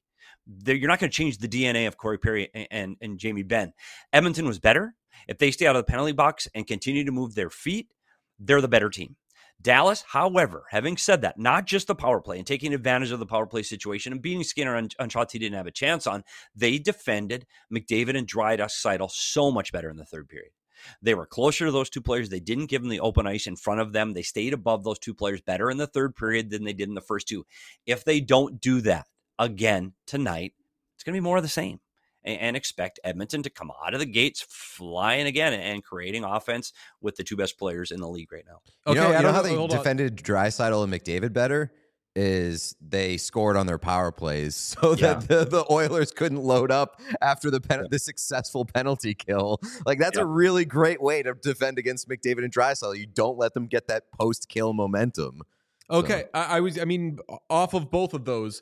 you're not going to change the DNA of Corey Perry and Jamie Benn. Edmonton was better. If they stay out of the penalty box and continue to move their feet, they're the better team. Dallas, however, having said that, not just the power play and taking advantage of the power play situation and beating Skinner on shots he didn't have a chance on, they defended McDavid and Draisaitl so much better in the third period. They were closer to those two players. They didn't give them the open ice in front of them. They stayed above those two players better in the third period than they did in the first two. If they don't do that again tonight, it's going to be more of the same. And expect Edmonton to come out of the gates flying again and creating offense with the two best players in the league right now. Okay, you know how they defended Draisaitl and McDavid better? Is they scored on their power plays so that the Oilers couldn't load up after the successful penalty kill. Like, that's a really great way to defend against McDavid and Draisaitl. You don't let them get that post-kill momentum. Okay, so. I mean, off of both of those,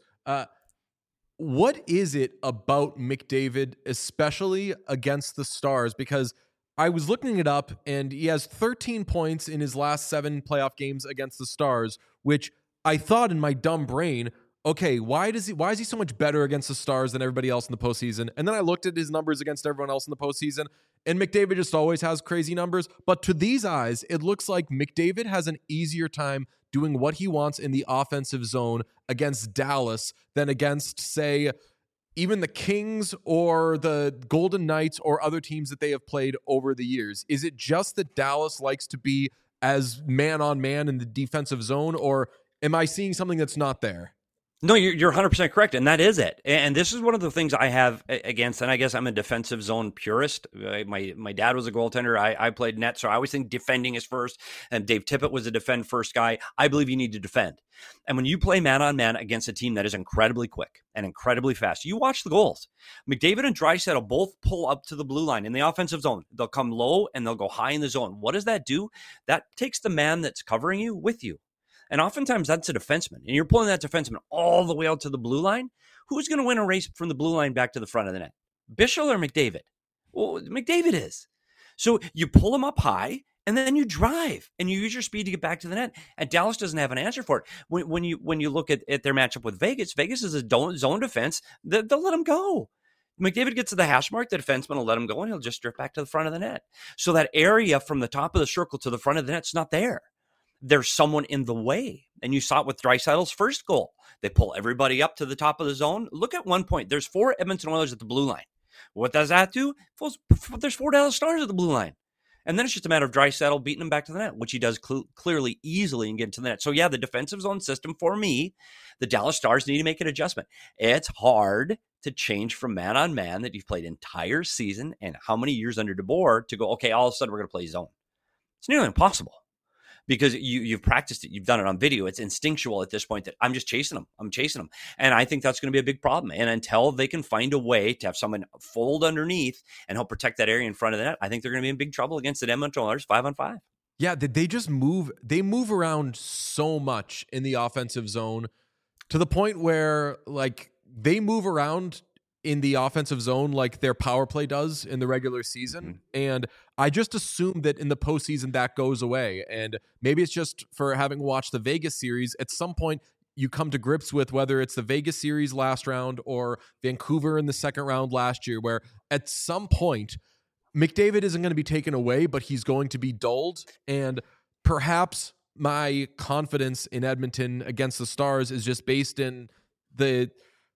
what is it about McDavid, especially against the Stars? Because I was looking it up, and he has 13 points in his last 7 playoff games against the Stars, which I thought in my dumb brain, okay, why is he so much better against the Stars than everybody else in the postseason? And then I looked at his numbers against everyone else in the postseason, and McDavid just always has crazy numbers. But to these eyes, it looks like McDavid has an easier time doing what he wants in the offensive zone against Dallas than against, say, even the Kings or the Golden Knights or other teams that they have played over the years. Is it just that Dallas likes to be as man-on-man in the defensive zone, or am I seeing something that's not there? No, you're 100% correct, and that is it. And this is one of the things I have against, and I guess I'm a defensive zone purist. My dad was a goaltender. I played net, so I always think defending is first, and Dave Tippett was a defend first guy. I believe you need to defend. And when you play man-on-man against a team that is incredibly quick and incredibly fast, you watch the goals. McDavid and Draisaitl both pull up to the blue line in the offensive zone. They'll come low, and they'll go high in the zone. What does that do? That takes the man that's covering you with you. And oftentimes that's a defenseman. And you're pulling that defenseman all the way out to the blue line. Who's going to win a race from the blue line back to the front of the net? Bischel or McDavid? Well, McDavid is. So you pull him up high, and then you drive, and you use your speed to get back to the net. And Dallas doesn't have an answer for it. When you look at their matchup with Vegas, Vegas is a zone defense. They'll let him go. McDavid gets to the hash mark, the defenseman will let him go, and he'll just drift back to the front of the net. So that area from the top of the circle to the front of the net's not there. There's someone in the way. And you saw it with Draisaitl's first goal. They pull everybody up to the top of the zone. Look at one point. There's 4 Edmonton Oilers at the blue line. What does that do? There's 4 Dallas Stars at the blue line. And then it's just a matter of Draisaitl beating him back to the net, which he does clearly, easily, and get to the net. So, yeah, the defensive zone system, for me, the Dallas Stars need to make an adjustment. It's hard to change from man-on-man that you've played entire season and how many years under DeBoer to go, okay, all of a sudden we're going to play zone. It's nearly impossible. Because you've practiced it, you've done it on video. It's instinctual at this point that I'm just chasing them. I'm chasing them. And I think that's going to be a big problem. And until they can find a way to have someone fold underneath and help protect that area in front of the net, I think they're going to be in big trouble against the Edmonton Oilers 5-on-5. Yeah, they just move. They move around so much in the offensive zone to the point where, like, they move around in the offensive zone like their power play does in the regular season. Mm-hmm. And I just assume that in the postseason that goes away. And maybe it's just for having watched the Vegas series, at some point you come to grips with whether it's the Vegas series last round or Vancouver in the second round last year, where at some point McDavid isn't going to be taken away, but he's going to be dulled. And perhaps my confidence in Edmonton against the Stars is just based in the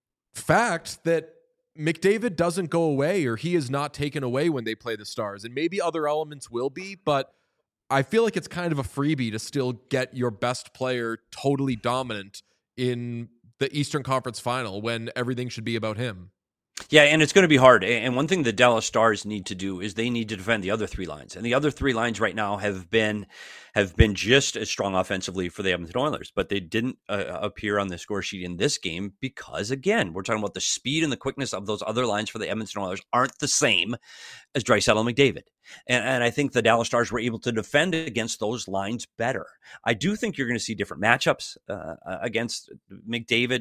fact that McDavid doesn't go away, or he is not taken away when they play the Stars. And maybe other elements will be, but I feel like it's kind of a freebie to still get your best player totally dominant in the Eastern Conference Final when everything should be about him. Yeah, and it's going to be hard. And one thing the Dallas Stars need to do is they need to defend the other 3 lines. And the other 3 lines right now have been just as strong offensively for the Edmonton Oilers, but they didn't appear on the score sheet in this game because, again, we're talking about the speed and the quickness of those other lines for the Edmonton Oilers aren't the same as Draisaitl and McDavid. And I think the Dallas Stars were able to defend against those lines better. I do think you're going to see different matchups against McDavid.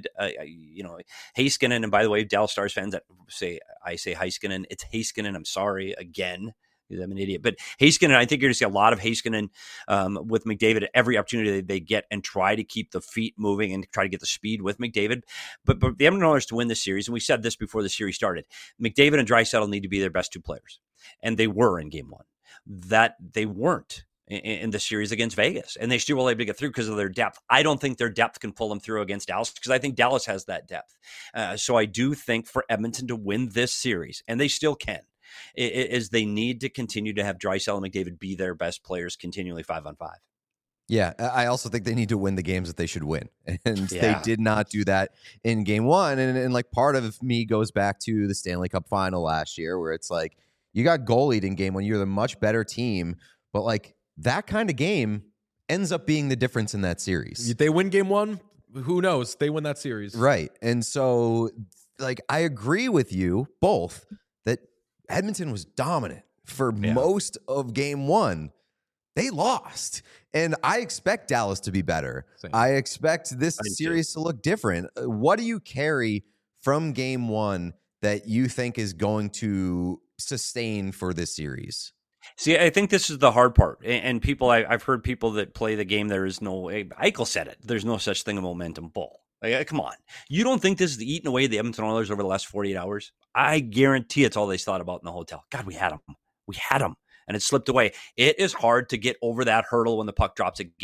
Heiskanen, and by the way, Dallas Stars fans that I say Heiskanen, it's Heiskanen. I'm sorry again. I'm an idiot. But Heiskanen, I think you're going to see a lot of Heiskanen with McDavid at every opportunity they get, and try to keep the feet moving and try to get the speed with McDavid. But the Edmonton Oilers to win this series, and we said this before the series started, McDavid and Draisaitl need to be their best two players. And they were in game 1. That they weren't in the series against Vegas, and they still were able to get through because of their depth. I don't think their depth can pull them through against Dallas, because I think Dallas has that depth. So I do think for Edmonton to win this series, and they still can, is they need to continue to have Draisaitl and McDavid be their best players continually 5-on-5. Yeah, I also think they need to win the games that they should win. And they did not do that in game 1. And like part of me goes back to the Stanley Cup final last year, where it's like, you got goalied in game 1. You're the much better team. But like that kind of game ends up being the difference in that series. They win game 1. Who knows? They win that series. Right. And so like, I agree with you both that Edmonton was dominant for most of game 1. They lost. And I expect Dallas to be better. Same. I expect this series to look different. What do you carry from game 1 that you think is going to sustain for this series? See, I think this is the hard part. And people, I've heard people that play the game, there is no, Eichel said it, there's no such thing as momentum bull. Like, come on. You don't think this is eating away the Edmonton Oilers over the last 48 hours? I guarantee it's all they thought about in the hotel. God, we had them. We had them. And it slipped away. It is hard to get over that hurdle when the puck drops at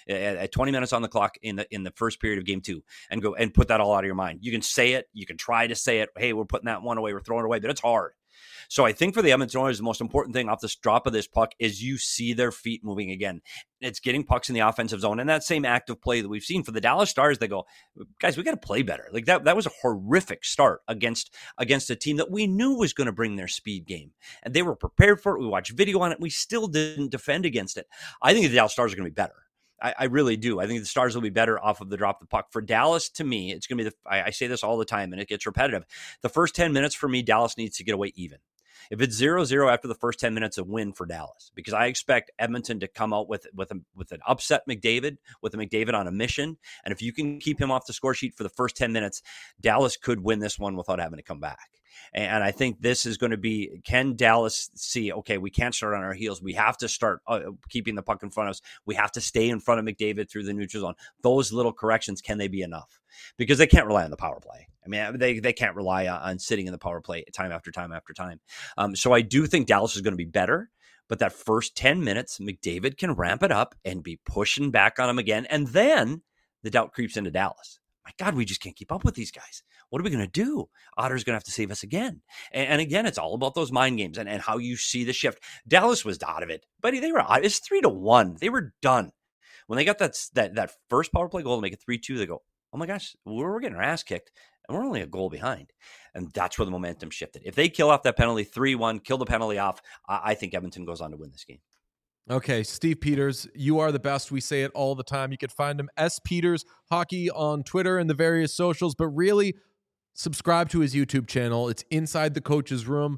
20 minutes on the clock in the first period of game 2 and go and put that all out of your mind. You can say it. You can try to say it. Hey, we're putting that one away. We're throwing it away. But it's hard. So I think for the Edmonton Oilers, the most important thing off this drop of this puck is you see their feet moving again. It's getting pucks in the offensive zone, and that same active play that we've seen for the Dallas Stars. They go, guys, we got to play better. Like that was a horrific start against a team that we knew was going to bring their speed game, and they were prepared for it. We watched video on it. We still didn't defend against it. I think the Dallas Stars are going to be better. I really do. I think the Stars will be better off of the drop of the puck. For Dallas, to me, it's going to be I say this all the time, and it gets repetitive. The first 10 minutes for me, Dallas needs to get away even. If it's 0-0 after the first 10 minutes, a win for Dallas, because I expect Edmonton to come out with an upset McDavid, with a McDavid on a mission. And if you can keep him off the score sheet for the first 10 minutes, Dallas could win this one without having to come back. And I think this is going to be, can Dallas see, okay, we can't start on our heels. We have to start keeping the puck in front of us. We have to stay in front of McDavid through the neutral zone. Those little corrections, can they be enough? Because they can't rely on the power play. I mean, they can't rely on sitting in the power play time after time after time. So I do think Dallas is going to be better. But that first 10 minutes, McDavid can ramp it up and be pushing back on him again. And then the doubt creeps into Dallas. My God, we just can't keep up with these guys. What are we going to do? Otter's going to have to save us again. And again, it's all about those mind games and how you see the shift. Dallas was out of it, but it's 3-1. They were done. When they got that first power play goal to make it 3-2, they go, oh my gosh, we're getting our ass kicked, and we're only a goal behind. And that's where the momentum shifted. If they kill off that penalty, 3-1, kill the penalty off, I think Edmonton goes on to win this game. Okay, Steve Peters, you are the best. We say it all the time. You can find him S Peters Hockey on Twitter and the various socials, but really subscribe to his YouTube channel. It's Inside the Coach's Room.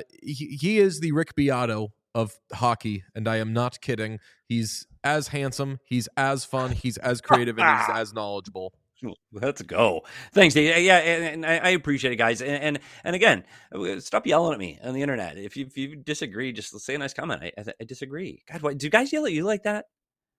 He is the Rick Beato of hockey, and I am not kidding. He's as handsome, he's as fun, he's as creative, and he's as knowledgeable. Let's go. Thanks, Dave. Yeah, and I appreciate it, guys. And again, stop yelling at me on the internet. If you disagree, just say a nice comment. I disagree. God, do you guys yell at you like that?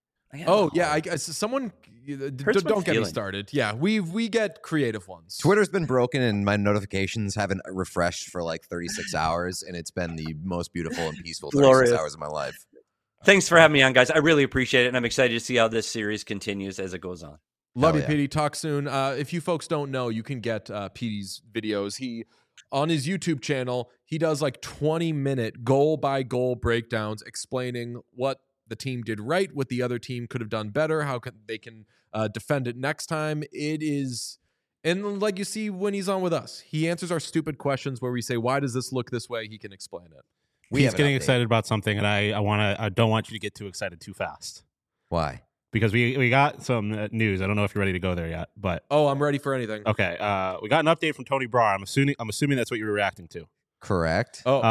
I guess someone don't get me started. Yeah, we get creative ones. Twitter's been broken and my notifications haven't refreshed for like 36 hours, and it's been the most beautiful and peaceful 36 hours of my life. Thanks for having me on, guys. I really appreciate it, and I'm excited to see how this series continues as it goes on. Love you, Petey. Talk soon. If you folks don't know, you can get Petey's videos. On his YouTube channel, he does like 20-minute goal-by-goal breakdowns explaining what the team did right, what the other team could have done better, how they can defend it next time. It is, and like you see when he's on with us, he answers our stupid questions where we say, why does this look this way? He can explain it. He's getting excited about something, and I don't want you to get too excited too fast. Why? Because we got some news. I don't know if you're ready to go there yet, but I'm ready for anything. Okay, we got an update from Tony Brar. I'm assuming that's what you were reacting to. Correct. Oh,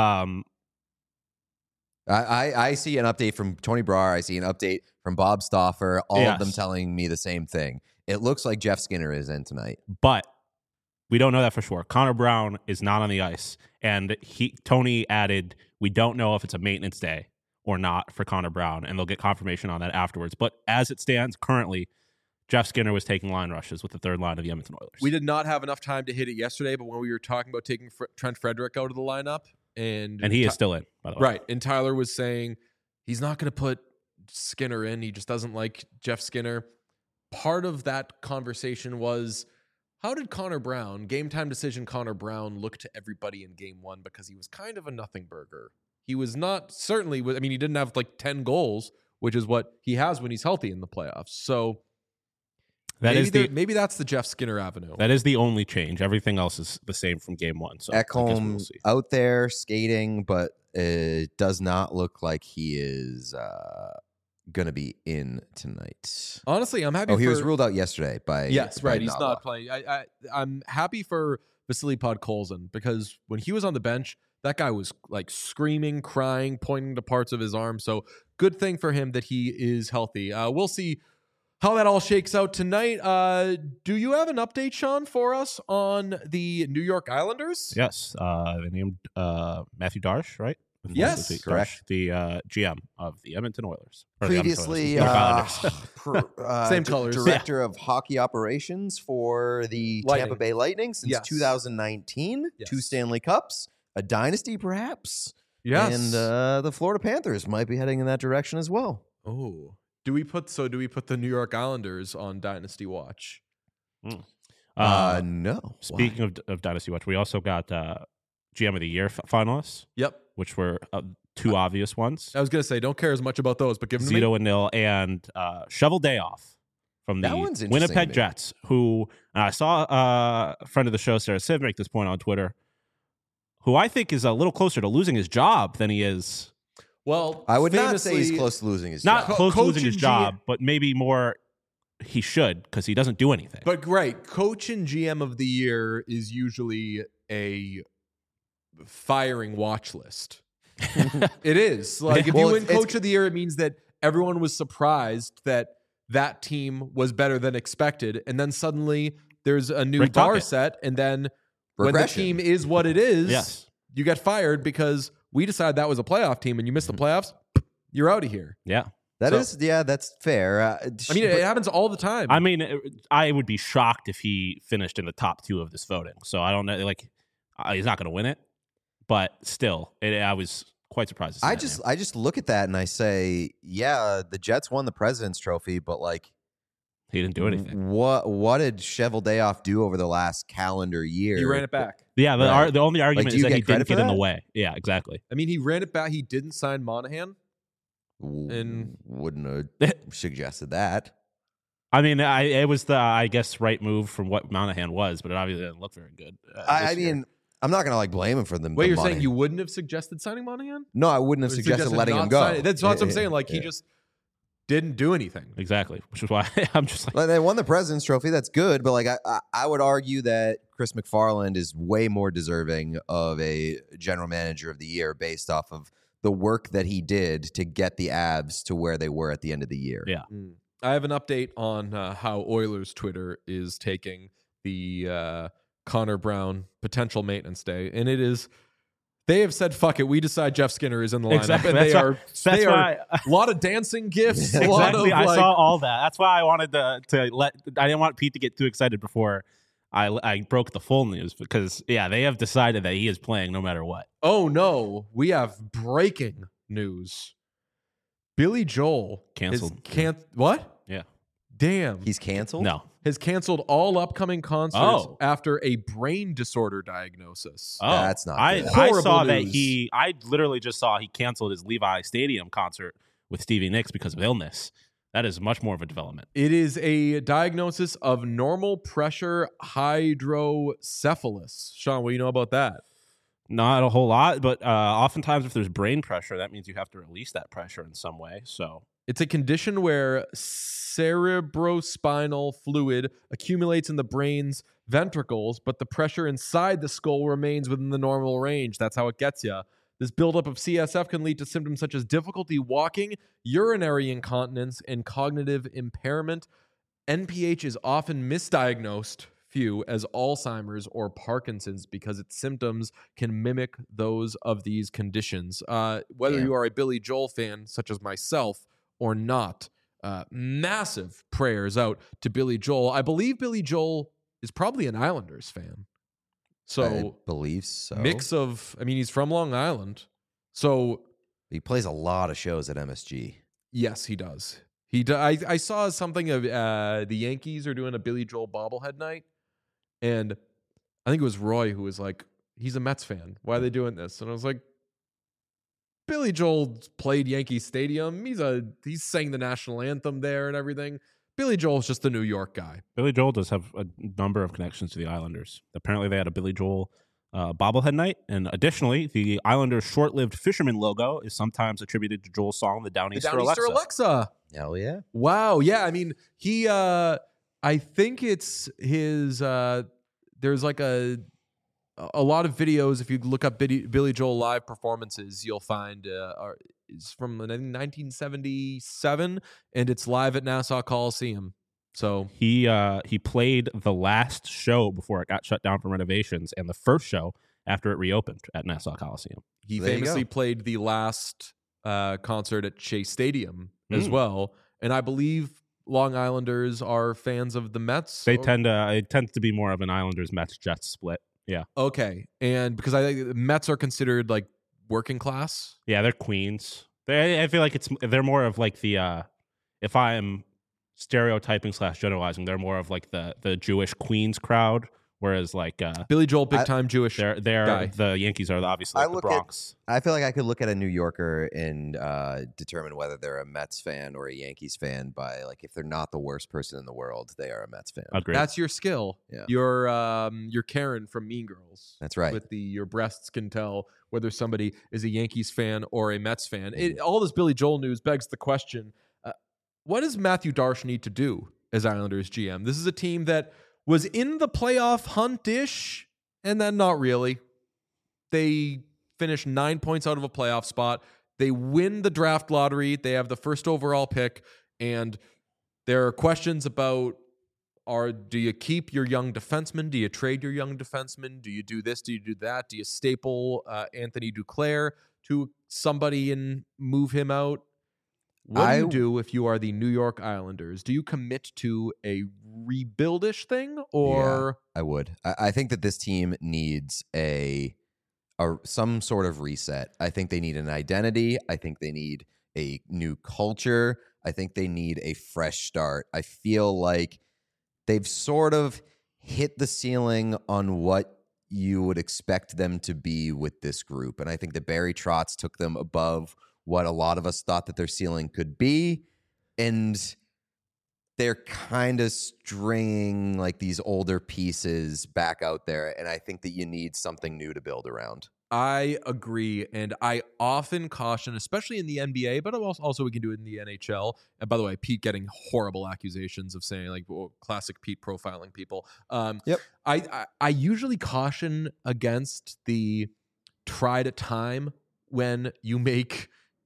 I see an update from Tony Brar. I see an update from Bob Stauffer. All of them telling me the same thing. It looks like Jeff Skinner is in tonight, but we don't know that for sure. Connor Brown is not on the ice, and Tony added, We don't know if it's a maintenance day or not for Connor Brown, and they'll get confirmation on that afterwards. But as it stands currently, Jeff Skinner was taking line rushes with the third line of the Edmonton Oilers. We did not have enough time to hit it yesterday, but when we were talking about taking Trent Frederick out of the lineup, and he is still in, by the way. Right. And Tyler was saying he's not going to put Skinner in. He just doesn't like Jeff Skinner. Part of that conversation was, how did Connor Brown, game time decision Connor Brown, look to everybody in game one? Because he was kind of a nothing burger. He was not, certainly, I mean, he didn't have like 10 goals, which is what he has when he's healthy in the playoffs. So maybe that's the Jeff Skinner avenue. That is the only change. Everything else is the same from game one. So Ekholm out there skating, but it does not look like he is going to be in tonight. Honestly, I'm happy. He was ruled out yesterday by. Yes, by right. He's Nala. not playing. I'm happy for Vasily Podkolzin, because when he was on the bench, that guy was like screaming, crying, pointing to parts of his arm. So good thing for him that he is healthy. We'll see how that all shakes out tonight. Do you have an update, Sean, for us on the New York Islanders? Yes. They named Matthew Darsh, right? Yes, correct. The GM of the Edmonton Oilers. Previously, same colors. Director of hockey operations for the Lightning. Tampa Bay Lightning since Yes. 2019. Yes. 2 Stanley Cups, a dynasty perhaps. Yes. And the Florida Panthers might be heading in that direction as well. Oh. Do we put the New York Islanders on Dynasty Watch? No. Speaking of Dynasty Watch, we also got GM of the Year finalists, Yep. which were two obvious ones. I was going to say, don't care as much about those, but give them to me. Zito and Nil and Shovel Day Off from That one's the interesting to Winnipeg me. Jets, who I saw a friend of the show, Sarah Siv, make this point on Twitter, who I think is a little closer to losing his job than he is. Well, I would not say he's famously- close to losing his Not job. close to Coach losing his and job, but maybe more he should, because he doesn't do anything. But right, coach and GM of the year is usually a firing watch list. It is. Like if Well, you win it's- coach of the year, it means that everyone was surprised that team was better than expected. And then suddenly there's a new Rick bar Tocchet. set. And then when the Regression. team is what it is, Yes. you get fired because we decided that was a playoff team and you missed the playoffs. You're out of here. Yeah. That's fair. I mean, it happens all the time. I mean, I would be shocked if he finished in the top 2 of this voting. So I don't know. Like, he's not going to win it, but still, I was quite surprised. To see that I just look at that and I say, yeah, the Jets won the President's Trophy, but like, he didn't do anything. What did Shovel Day Off do over the last calendar year? he ran it back. Yeah, Right. the only argument do is you that he get credit didn't for get in the that? way. Yeah, exactly. I mean, he ran it back. He didn't sign Monahan. And- Wouldn't have suggested that. I mean, it was the, I guess, right move from what Monahan was, but it obviously didn't look very good. I this year. mean, I'm not gonna like blame him for them. Wait, the you're money. saying you wouldn't have suggested signing Monahan? No, I wouldn't have Or suggested letting not him go. signing- That's what I'm saying. Like, he Yeah. just didn't do anything. Exactly, which is why I'm just like, Like, they won the President's Trophy. That's good, but like I would argue that Chris McFarland is way more deserving of a General Manager of the Year based off of the work that he did to get the Abs to where they were at the end of the year. Yeah. I have an update on how Oilers Twitter is taking the Connor Brown potential maintenance day, and it is. They have said, "Fuck it, we decide Jeff Skinner is in the lineup," Exactly. and That's they why- are. that's They are why- a lot of dancing gifts. A lot of exactly. I like, saw all that. That's why I wanted to let. I didn't want Pete to get too excited before I broke the full news, because they have decided that he is playing no matter what. oh no, we have breaking news. Billy Joel Canceled. What? Yeah. Damn. He's canceled. No. Has canceled all upcoming concerts Oh. after a brain disorder diagnosis. Oh, That's not I good. Horrible saw that news. I literally just saw he canceled his Levi Stadium concert with Stevie Nicks because of illness. That is much more of a development. It is a diagnosis of normal pressure hydrocephalus. Sean, what do you know about that? Not a whole lot, but oftentimes if there's brain pressure, that means you have to release that pressure in some way. So It's a condition where cerebrospinal fluid accumulates in the brain's ventricles, but the pressure inside the skull remains within the normal range. That's how it gets you. This buildup of CSF can lead to symptoms such as difficulty walking, urinary incontinence, and cognitive impairment. NPH is often misdiagnosed, few as Alzheimer's or Parkinson's because its symptoms can mimic those of these conditions. Whether Damn. you are a Billy Joel fan, such as myself, or not, massive prayers out to Billy Joel. I believe Billy Joel is probably an Islanders fan. So I believe so. mix of, I mean, he's from Long Island. So He plays a lot of shows at MSG. yes, he does. I saw something of the Yankees are doing a Billy Joel bobblehead night, and I think it was Roy who was like, "He's a Mets fan. Why are they doing this?" And I was like, "Billy Joel played Yankee Stadium. He's sang the national anthem there and everything. Billy Joel's just the New York guy." Billy Joel does have a number of connections to the Islanders. Apparently, they had a Billy Joel bobblehead night, and additionally, the Islanders' short-lived fisherman logo is sometimes attributed to Joel's song "The Downeaster Alexa." Alexa. Hell yeah. Wow. Yeah. I mean, he. I think it's his. There's like a lot of videos. If you look up Billy Joel live performances, you'll find it's from I think 1977, and it's live at Nassau Coliseum. So He played the last show before it got shut down for renovations, and the first show after it reopened at Nassau Coliseum. he There you famously go. played the last concert at Shea Stadium as well, and I believe Long Islanders are fans of the Mets. They tend to it tends to be more of an Islanders Mets Jets split. Yeah, Okay, and because I think the Mets are considered like working class. yeah, they're Queens. I feel like they're more of like the if I'm stereotyping / generalizing, they're more of like the Jewish Queens crowd, whereas like Billy Joel, big time Jewish. they're guy. the Yankees are obviously I like the look at- Bronx. I feel like I could look at a New Yorker and determine whether they're a Mets fan or a Yankees fan by like if they're not the worst person in the world, they are a Mets fan. Agreed. That's your skill. Yeah. You're Karen from Mean Girls. That's right. With your breasts can tell whether somebody is a Yankees fan or a Mets fan. All this Billy Joel news begs the question: what does Matthew Darsh need to do as Islanders GM? This is a team that was in the playoff hunt-ish, and then not really. They finished 9 points out of a playoff spot. They win the draft lottery. They have the first overall pick, and there are questions about do you keep your young defenseman? Do you trade your young defenseman? Do you do this? Do you do that? Do you staple Anthony Duclair to somebody and move him out? What do you do if you are the New York Islanders? Do you commit to a rebuildish thing, or I would. I think that this team needs some sort of reset. I think they need an identity. I think they need a new culture. I think they need a fresh start. I feel like they've sort of hit the ceiling on what you would expect them to be with this group. And I think that Barry Trotz took them above what a lot of us thought that their ceiling could be. And they're kind of stringing like these older pieces back out there. And I think that you need something new to build around. I agree, and I often caution, especially in the NBA, but also we can do it in the NHL. And by the way, Pete getting horrible accusations of saying like classic Pete profiling people. Yep. I usually caution against the try to time when you make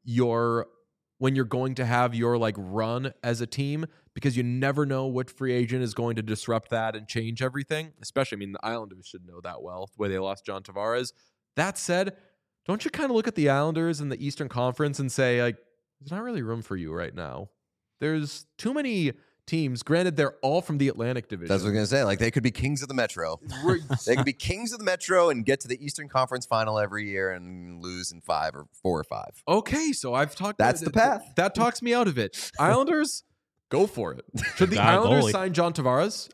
when you're going to have your like run as a team, because you never know what free agent is going to disrupt that and change everything. Especially, I mean, the Islanders should know that well, the way they lost John Tavares. That said, don't you kind of look at the Islanders in the Eastern Conference and say, like, there's not really room for you right now? There's too many teams. Granted, they're all from the Atlantic Division. That's what I'm going to say. Like, they could be kings of the Metro. They could be kings of the Metro and get to the Eastern Conference final every year and lose in 4 or 5. Okay, so I've talked. That's the path. That talks me out of it. Islanders, go for it. Should the Islanders sign John Tavares?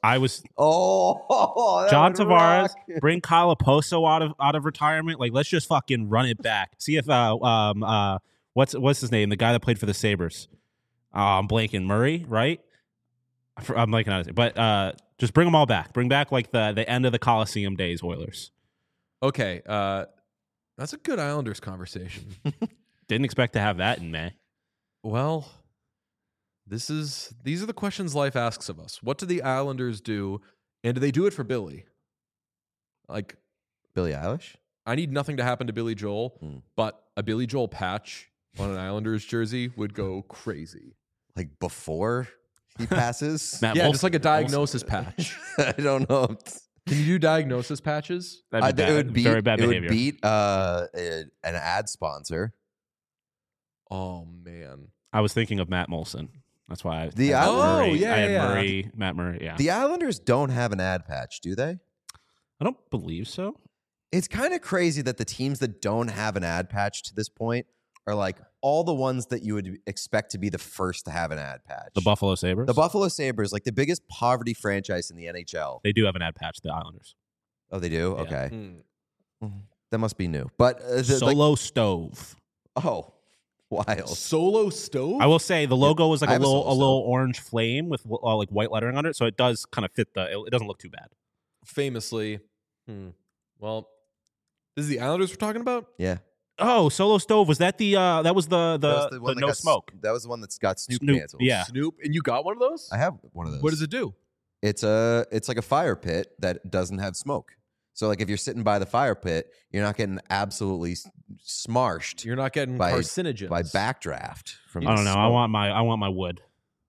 John Tavares, bring Kyle Oposo out of retirement. Like, let's just fucking run it back. See if what's his name? The guy that played for the Sabres. I'm blanking. Murray, right? I'm blanking on it. But just bring them all back. Bring back like the end of the Coliseum days Oilers. Okay, that's a good Islanders conversation. Didn't expect to have that in May. Well, these are the questions life asks of us. What do the Islanders do, and do they do it for Billy? Like, Billie Eilish? I need nothing to happen to Billy Joel, but a Billy Joel patch on an Islanders jersey would go crazy. Like before He passes. Matt Yeah, Molson. just like a diagnosis patch. I don't know. Can you do diagnosis patches? That'd be It bad. would beat, very bad it behavior. would beat an ad sponsor. Oh man. I was thinking of Matt Molson. That's why. The I had Islanders- Murray. yeah, I had yeah. Murray. Matt Murray. Yeah. The Islanders don't have an ad patch, do they? I don't believe so. It's kind of crazy that the teams that don't have an ad patch to this point are like all the ones that you would expect to be the first to have an ad patch. The Buffalo Sabres. The Buffalo Sabres, like the biggest poverty franchise in the NHL. They do have an ad patch. The Islanders. Oh, they do? Yeah. Okay. That must be new. But Solo Stove. oh, wild. Solo stove? I will say the logo was like I a have a little Solo little orange flame with like white lettering on it, so it does kind of fit it doesn't look too bad. Famously. Well, this is the Islanders we're talking about? Yeah. Oh, Solo Stove, was that the that was the one that no got smoke? That was the one that's got Snoop, Snoop, cancelled. yeah. Snoop. And you got one of those? I have one of those. What does it do? It's like a fire pit that doesn't have smoke. So like if you're sitting by the fire pit, you're not getting absolutely smarshed You're not getting by carcinogens. backdraft from I don't the know. smoke. I want my wood.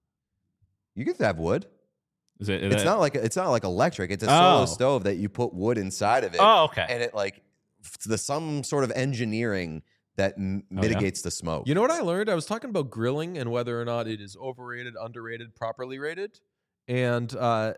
You can have wood. Is it? It's not like electric. It's a solo Oh. stove that you put wood inside of it. Oh, okay. And it like some sort of engineering that mitigates the smoke. You know what I learned? I was talking about grilling and whether or not it is overrated, underrated, properly rated. And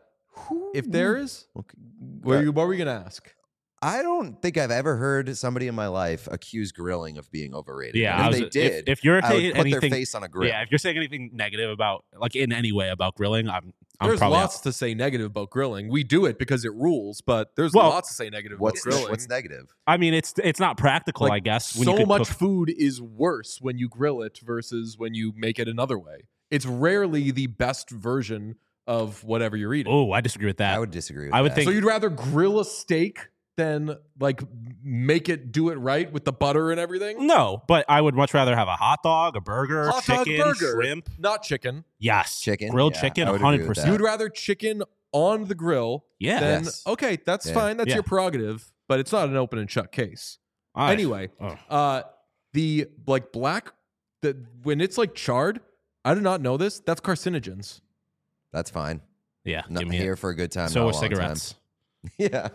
if there is, Okay. what were you going to ask? I don't think I've ever heard somebody in my life accuse grilling of being overrated. Yeah, And I if was- they did, if you're I saying would put anything, their face on a grill. yeah, if you're saying anything negative about, like in any way about grilling, I'm There's probably lots to say negative about grilling. We do it because it rules, but there's Well, lots to say negative What's about grilling. what's negative? I mean, it's not practical, Like, I guess. When you so could much cook- food is worse when you grill it versus when you make it another way. It's rarely the best version of whatever you're eating. Oh, I disagree with that. I would disagree with I would that. think- So you'd rather grill a steak than like do it right with the butter and everything? No, but I would much rather have a hot dog, a burger, Hot dog, chicken, burger. shrimp. Not chicken. Yes, Chicken, grilled yeah, chicken, I would agree with 100%. that. You'd rather chicken on the grill Yeah. than Yes. okay, that's Yeah. fine. That's Yeah. your prerogative, but it's not an open and shut case. All right. Anyway, Oh. the like black when it's like charred, I did not know this. That's carcinogens. That's fine. Yeah, Not give me here it. for a good time. So not a with long time. cigarettes. Yeah.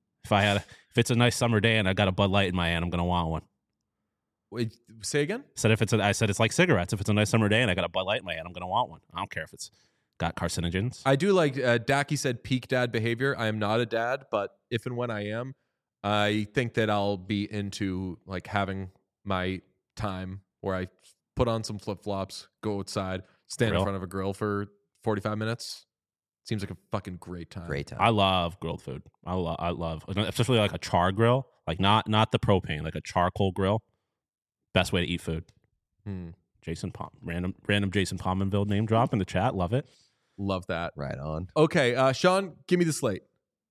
If it's a nice summer day and I got a Bud Light in my hand, I'm gonna want one. Wait, say again? I said it's like cigarettes. If it's a nice summer day and I got a Bud Light in my hand, I'm gonna want one. I don't care if it's got carcinogens. I do like Dacky said peak dad behavior. I am not a dad, but if and when I am, I think that I'll be into like having my time where I put on some flip flops, go outside, stand Grill. in front of a grill for 45 minutes. Seems like a fucking great time. Great time. I love grilled food. I love, especially like a char grill, like not the propane, like a charcoal grill. Best way to eat food. Jason random Jason Pominville name drop in the chat. Love it. Love that. Right on. Okay, Sean, give me the slate.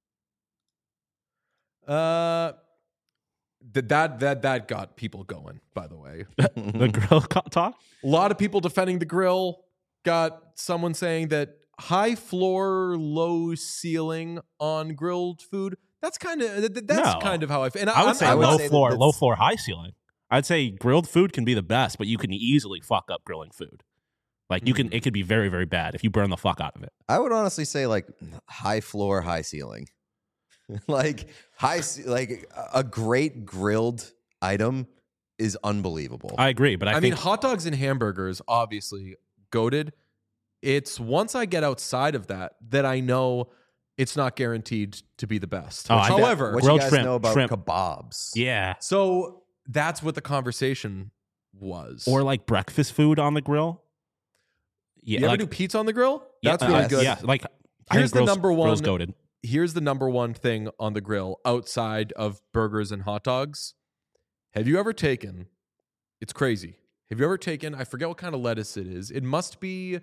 That got people going, by the way. The grill talk. A lot of people defending the grill. Got someone saying that high floor, low ceiling on grilled food. That's kind of No. kind of how I feel. And I would say I would low say that floor, that's- low floor, high ceiling. I'd say grilled food can be the best, but you can easily fuck up grilling food. Like it could be very, very bad if you burn the fuck out of it. I would honestly say like high floor, high ceiling. Like a great grilled item is unbelievable. I agree, but I mean, think hot dogs and hamburgers, obviously goated. It's once I get outside of that I know it's not guaranteed to be the best. Oh, I bet. However, what grilled you guys shrimp, know about shrimp. kebabs? yeah, so that's what the conversation was. or like breakfast food on the grill. Yeah, you ever like, do pizza on the grill? yeah, That's really good. Yeah, like I Here's think the number one- Grill's goated. Here's the number one thing on the grill outside of burgers and hot dogs. Have you ever taken, it's crazy. Have you ever taken, I forget what kind of lettuce it is. It must be,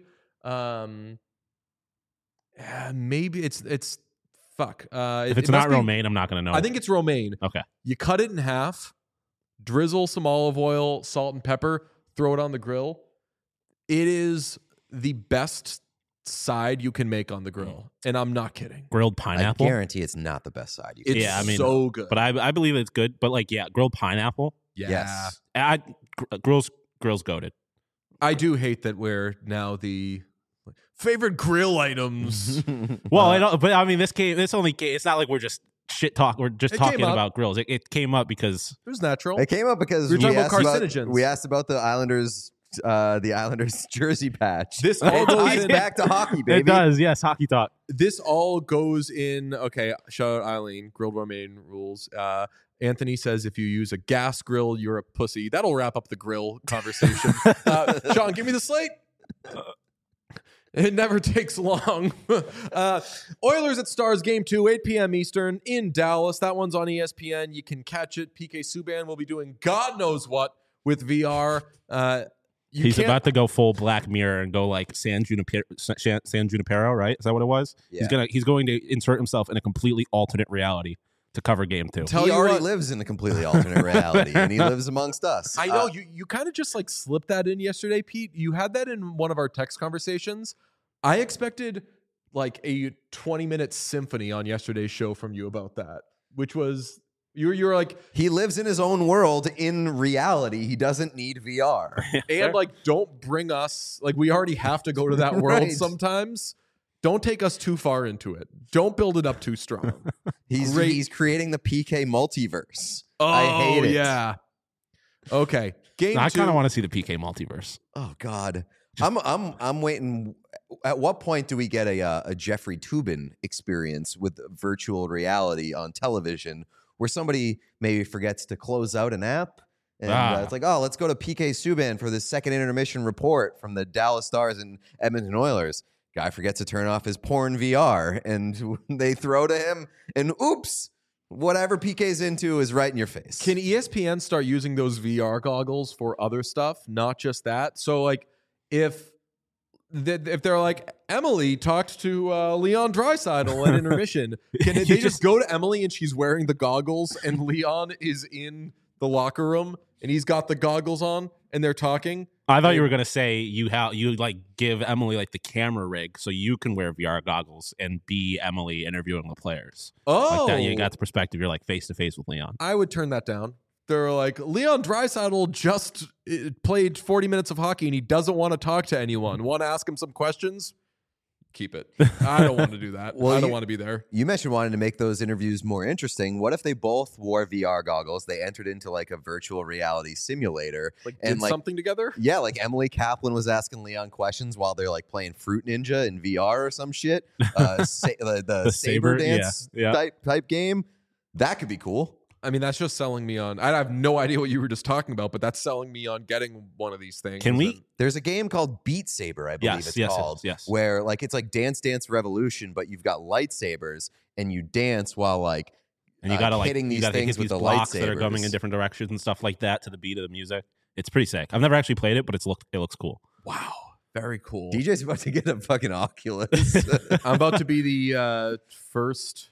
maybe it's fuck. If it's it must not be- romaine, I'm not gonna know. I think it's romaine. Okay. You cut it in half, drizzle some olive oil, salt and pepper, throw it on the grill. It is the best side you can make on the grill. And I'm not kidding. grilled I pineapple. guarantee it's not the best side. You can It's Yeah, I mean, so good. But I believe it's good. But like, yeah, grilled pineapple. yeah. Yes. Grill's goated. I do hate that we're now Favorite grill items. Well, I mean, this only came. It's not like we're just shit talk. We're just talking about grills. It came up because it was natural. It came up because we were talking about carcinogens. We asked about the Islanders jersey patch. This all goes back to hockey, baby. It does, yes, hockey talk. This all goes in. Okay, shout out Eileen. Grilled romaine rules. Anthony says if you use a gas grill, you're a pussy. That'll wrap up the grill conversation. Sean, give me the slate. It never takes long. Oilers at Stars Game 2, 8 p.m. Eastern in Dallas. That one's on ESPN. You can catch it. PK Subban will be doing God knows what with VR. He's about to go full Black Mirror and go like San Junipero, right? Is that what it was? Yeah. He's going to insert himself in a completely alternate reality to cover Game 2. He already lives in a completely alternate reality, and he lives amongst us. I know you kind of just like slipped that in yesterday, Pete. You had that in one of our text conversations. I expected like a 20-minute symphony on yesterday's show from you about that, which was you were like, he lives in his own world in reality. He doesn't need VR. And like, don't bring us, like, we already have to go to that world Right. sometimes. Don't take us too far into it. Don't build it up too strong. He's creating the PK multiverse. Oh, I hate it. Yeah. Okay. Game I two. kind of want to see the PK multiverse. Oh God. I'm waiting. At what point do we get a Jeffrey Toobin experience with virtual reality on television, where somebody maybe forgets to close out an app, and it's like, oh, let's go to PK Subban for the second intermission report from the Dallas Stars and Edmonton Oilers. Guy forgets to turn off his porn VR, and they throw to him, and oops, whatever PK's into is right in your face. Can ESPN start using those VR goggles for other stuff, not just that? So, like, if they're like, Emily talked to Leon Draisaitl at intermission, can they just go to Emily and she's wearing the goggles, and Leon is in the locker room and he's got the goggles on and they're talking? I thought you were gonna say you like give Emily like the camera rig so you can wear VR goggles and be Emily interviewing the players. Oh, like that, you got the perspective. You're like face to face with Leon. I would turn that down. They're like, Leon Draisaitl just played 40 minutes of hockey and he doesn't want to talk to anyone. Want to ask him some questions? Keep it. I don't want to do that. I don't want to be there. You mentioned wanting to make those interviews more interesting. What if they both wore VR goggles? They entered into like a virtual reality simulator. Like, did something together? Yeah, like Emily Kaplan was asking Leon questions while they're like playing Fruit Ninja in VR or some shit. The Saber Dance type game. That could be cool. I mean, that's just selling me on. I have no idea what you were just talking about, but that's selling me on getting one of these things. Can we? There's a game called Beat Saber, I believe it's called. Yes. Where like it's like Dance Dance Revolution, but you've got lightsabers and you dance while like and you gotta hitting these things with the blocks lightsabers that are coming in different directions and stuff like that to the beat of the music. It's pretty sick. I've never actually played it, but it looks cool. Wow, very cool. DJ's about to get a fucking Oculus. I'm about to be the first.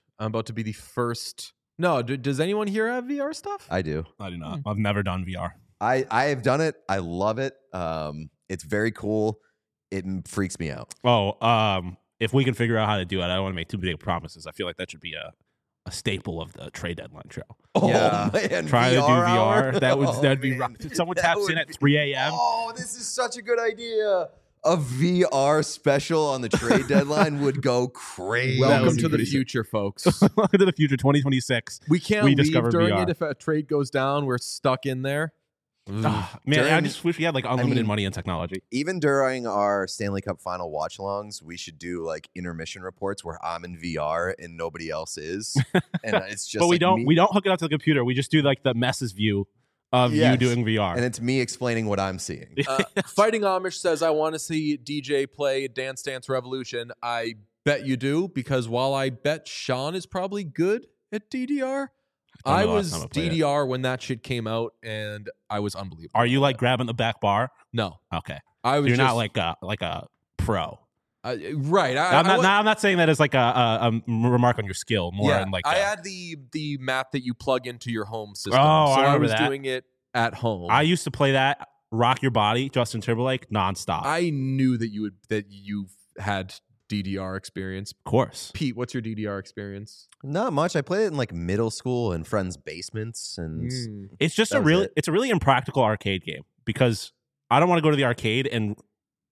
No, does anyone here have VR stuff? I do. I do not. I've never done VR. I have done it. I love it. It's very cool. It freaks me out. If we can figure out how to do it, I don't want to make too big promises. I feel like that should be a staple of the trade deadline show. Oh, yeah, man. Try to do hour? VR. That'd be rough. If someone taps in at 3 a.m. Oh, this is such a good idea. A VR special on the trade deadline would go crazy. Welcome to the future, folks. Welcome to the future, 2026. We can't leave during VR. it if a trade goes down. We're stuck in there. Man, I just wish we had like unlimited money and technology. Even during our Stanley Cup final watch-alongs, we should do like intermission reports where I'm in VR and nobody else is, and it's just. But we like don't hook it up to the computer. We just do like the messes view of you doing VR, and it's me explaining what I'm seeing. Fighting Amish says, "I want to see DJ play Dance Dance Revolution." I bet you do, because while I bet Sean is probably good at DDR. I was DDR when that shit came out, and I was unbelievable. Are you like grabbing the back bar? No. Okay. You're not like a pro. Right. I'm not saying that as like a remark on your skill. More in like I had the map that you plug into your home system. Oh, so I was that. doing it at home. I used to play that Rock Your Body, Justin Timberlake, nonstop. I knew that you've had DDR experience. Of course. Pete, what's your DDR experience? Not much. I played it in like middle school in friends' basements, and it's just a really impractical arcade game, because I don't want to go to the arcade and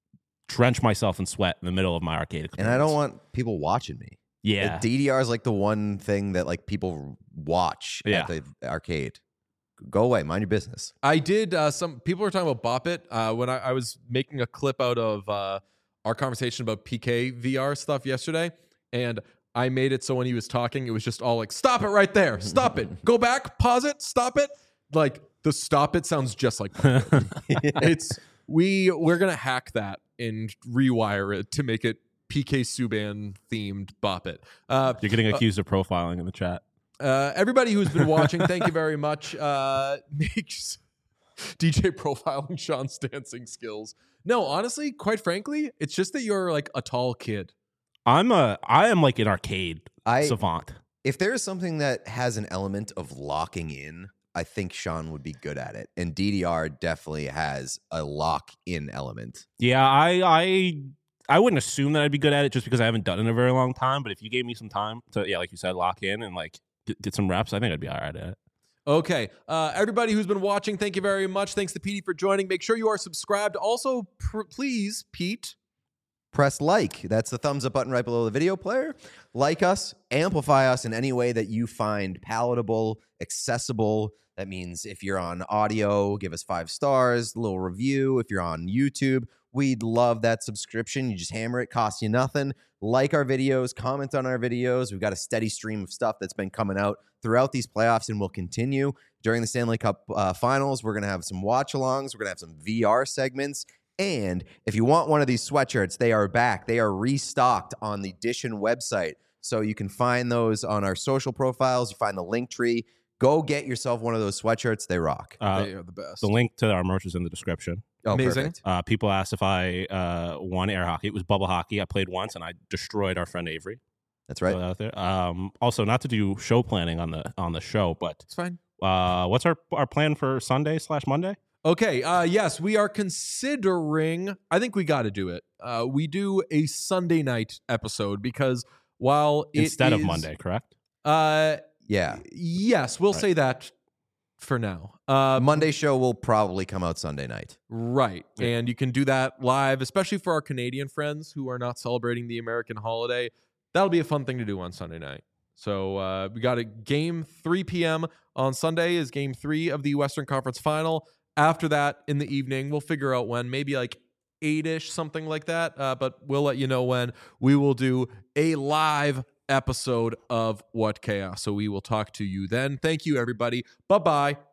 drench myself in sweat in the middle of my arcade experience. And I don't want people watching me. Yeah. DDR is like the one thing that like people watch at the arcade. Go away, mind your business. I did. Some people were talking about Bop It when I was making a clip out of our conversation about PK VR stuff yesterday, and I made it so when he was talking, it was just all like, "Stop it right there! Stop it! Go back! Pause it! Stop it!" Like the "stop it" sounds just like Bop It. It's we're gonna hack that and rewire it to make it PK Subban themed Bop It. You're getting accused of profiling in the chat. Everybody who's been watching, thank you very much. Makes DJ profiling Sean's dancing skills. No, honestly, quite frankly, it's just that you're like a tall kid. I am like an arcade savant. If there is something that has an element of locking in, I think Sean would be good at it. And DDR definitely has a lock-in element. Yeah, I wouldn't assume that I'd be good at it just because I haven't done it in a very long time. But if you gave me some time to, like you said, lock in and like get some reps, I think I'd be all right at it. Okay. Everybody who's been watching, thank you very much. Thanks to Petey for joining. Make sure you are subscribed. Also, please, Pete. Press like. That's the thumbs up button right below the video player. Like us, amplify us in any way that you find palatable, accessible. That means if you're on audio, give us 5 stars, a little review. If you're on YouTube, we'd love that subscription. You just hammer it, costs you nothing. Like our videos, comment on our videos. We've got a steady stream of stuff that's been coming out throughout these playoffs and will continue. During the Stanley Cup finals, we're going to have some watch-alongs. We're going to have some VR segments. And if you want one of these sweatshirts, they are back. They are restocked on the Dishin website. So you can find those on our social profiles. You find the link tree. Go get yourself one of those sweatshirts. They rock. They are the best. The link to our merch is in the description. Oh, amazing. Perfect. People asked if I won air hockey. It was bubble hockey. I played once and I destroyed our friend Avery. That's right. Out there. Also, not to do show planning on the show, but It's fine. what's our plan for Sunday/Monday? Okay. Yes, we are considering. I think we got to do it. We do a Sunday night episode because while Instead of Monday, correct? Yeah. Yes, we'll say that for now. Monday show will probably come out Sunday night. Right. Yeah. And you can do that live, especially for our Canadian friends who are not celebrating the American holiday. That'll be a fun thing to do on Sunday night. So we got a game 3 p.m. on Sunday is game 3 of the Western Conference Final. After that, in the evening, we'll figure out when, maybe like 8-ish, something like that. But we'll let you know when we will do a live episode of What Chaos. So we will talk to you then. Thank you, everybody. Bye-bye.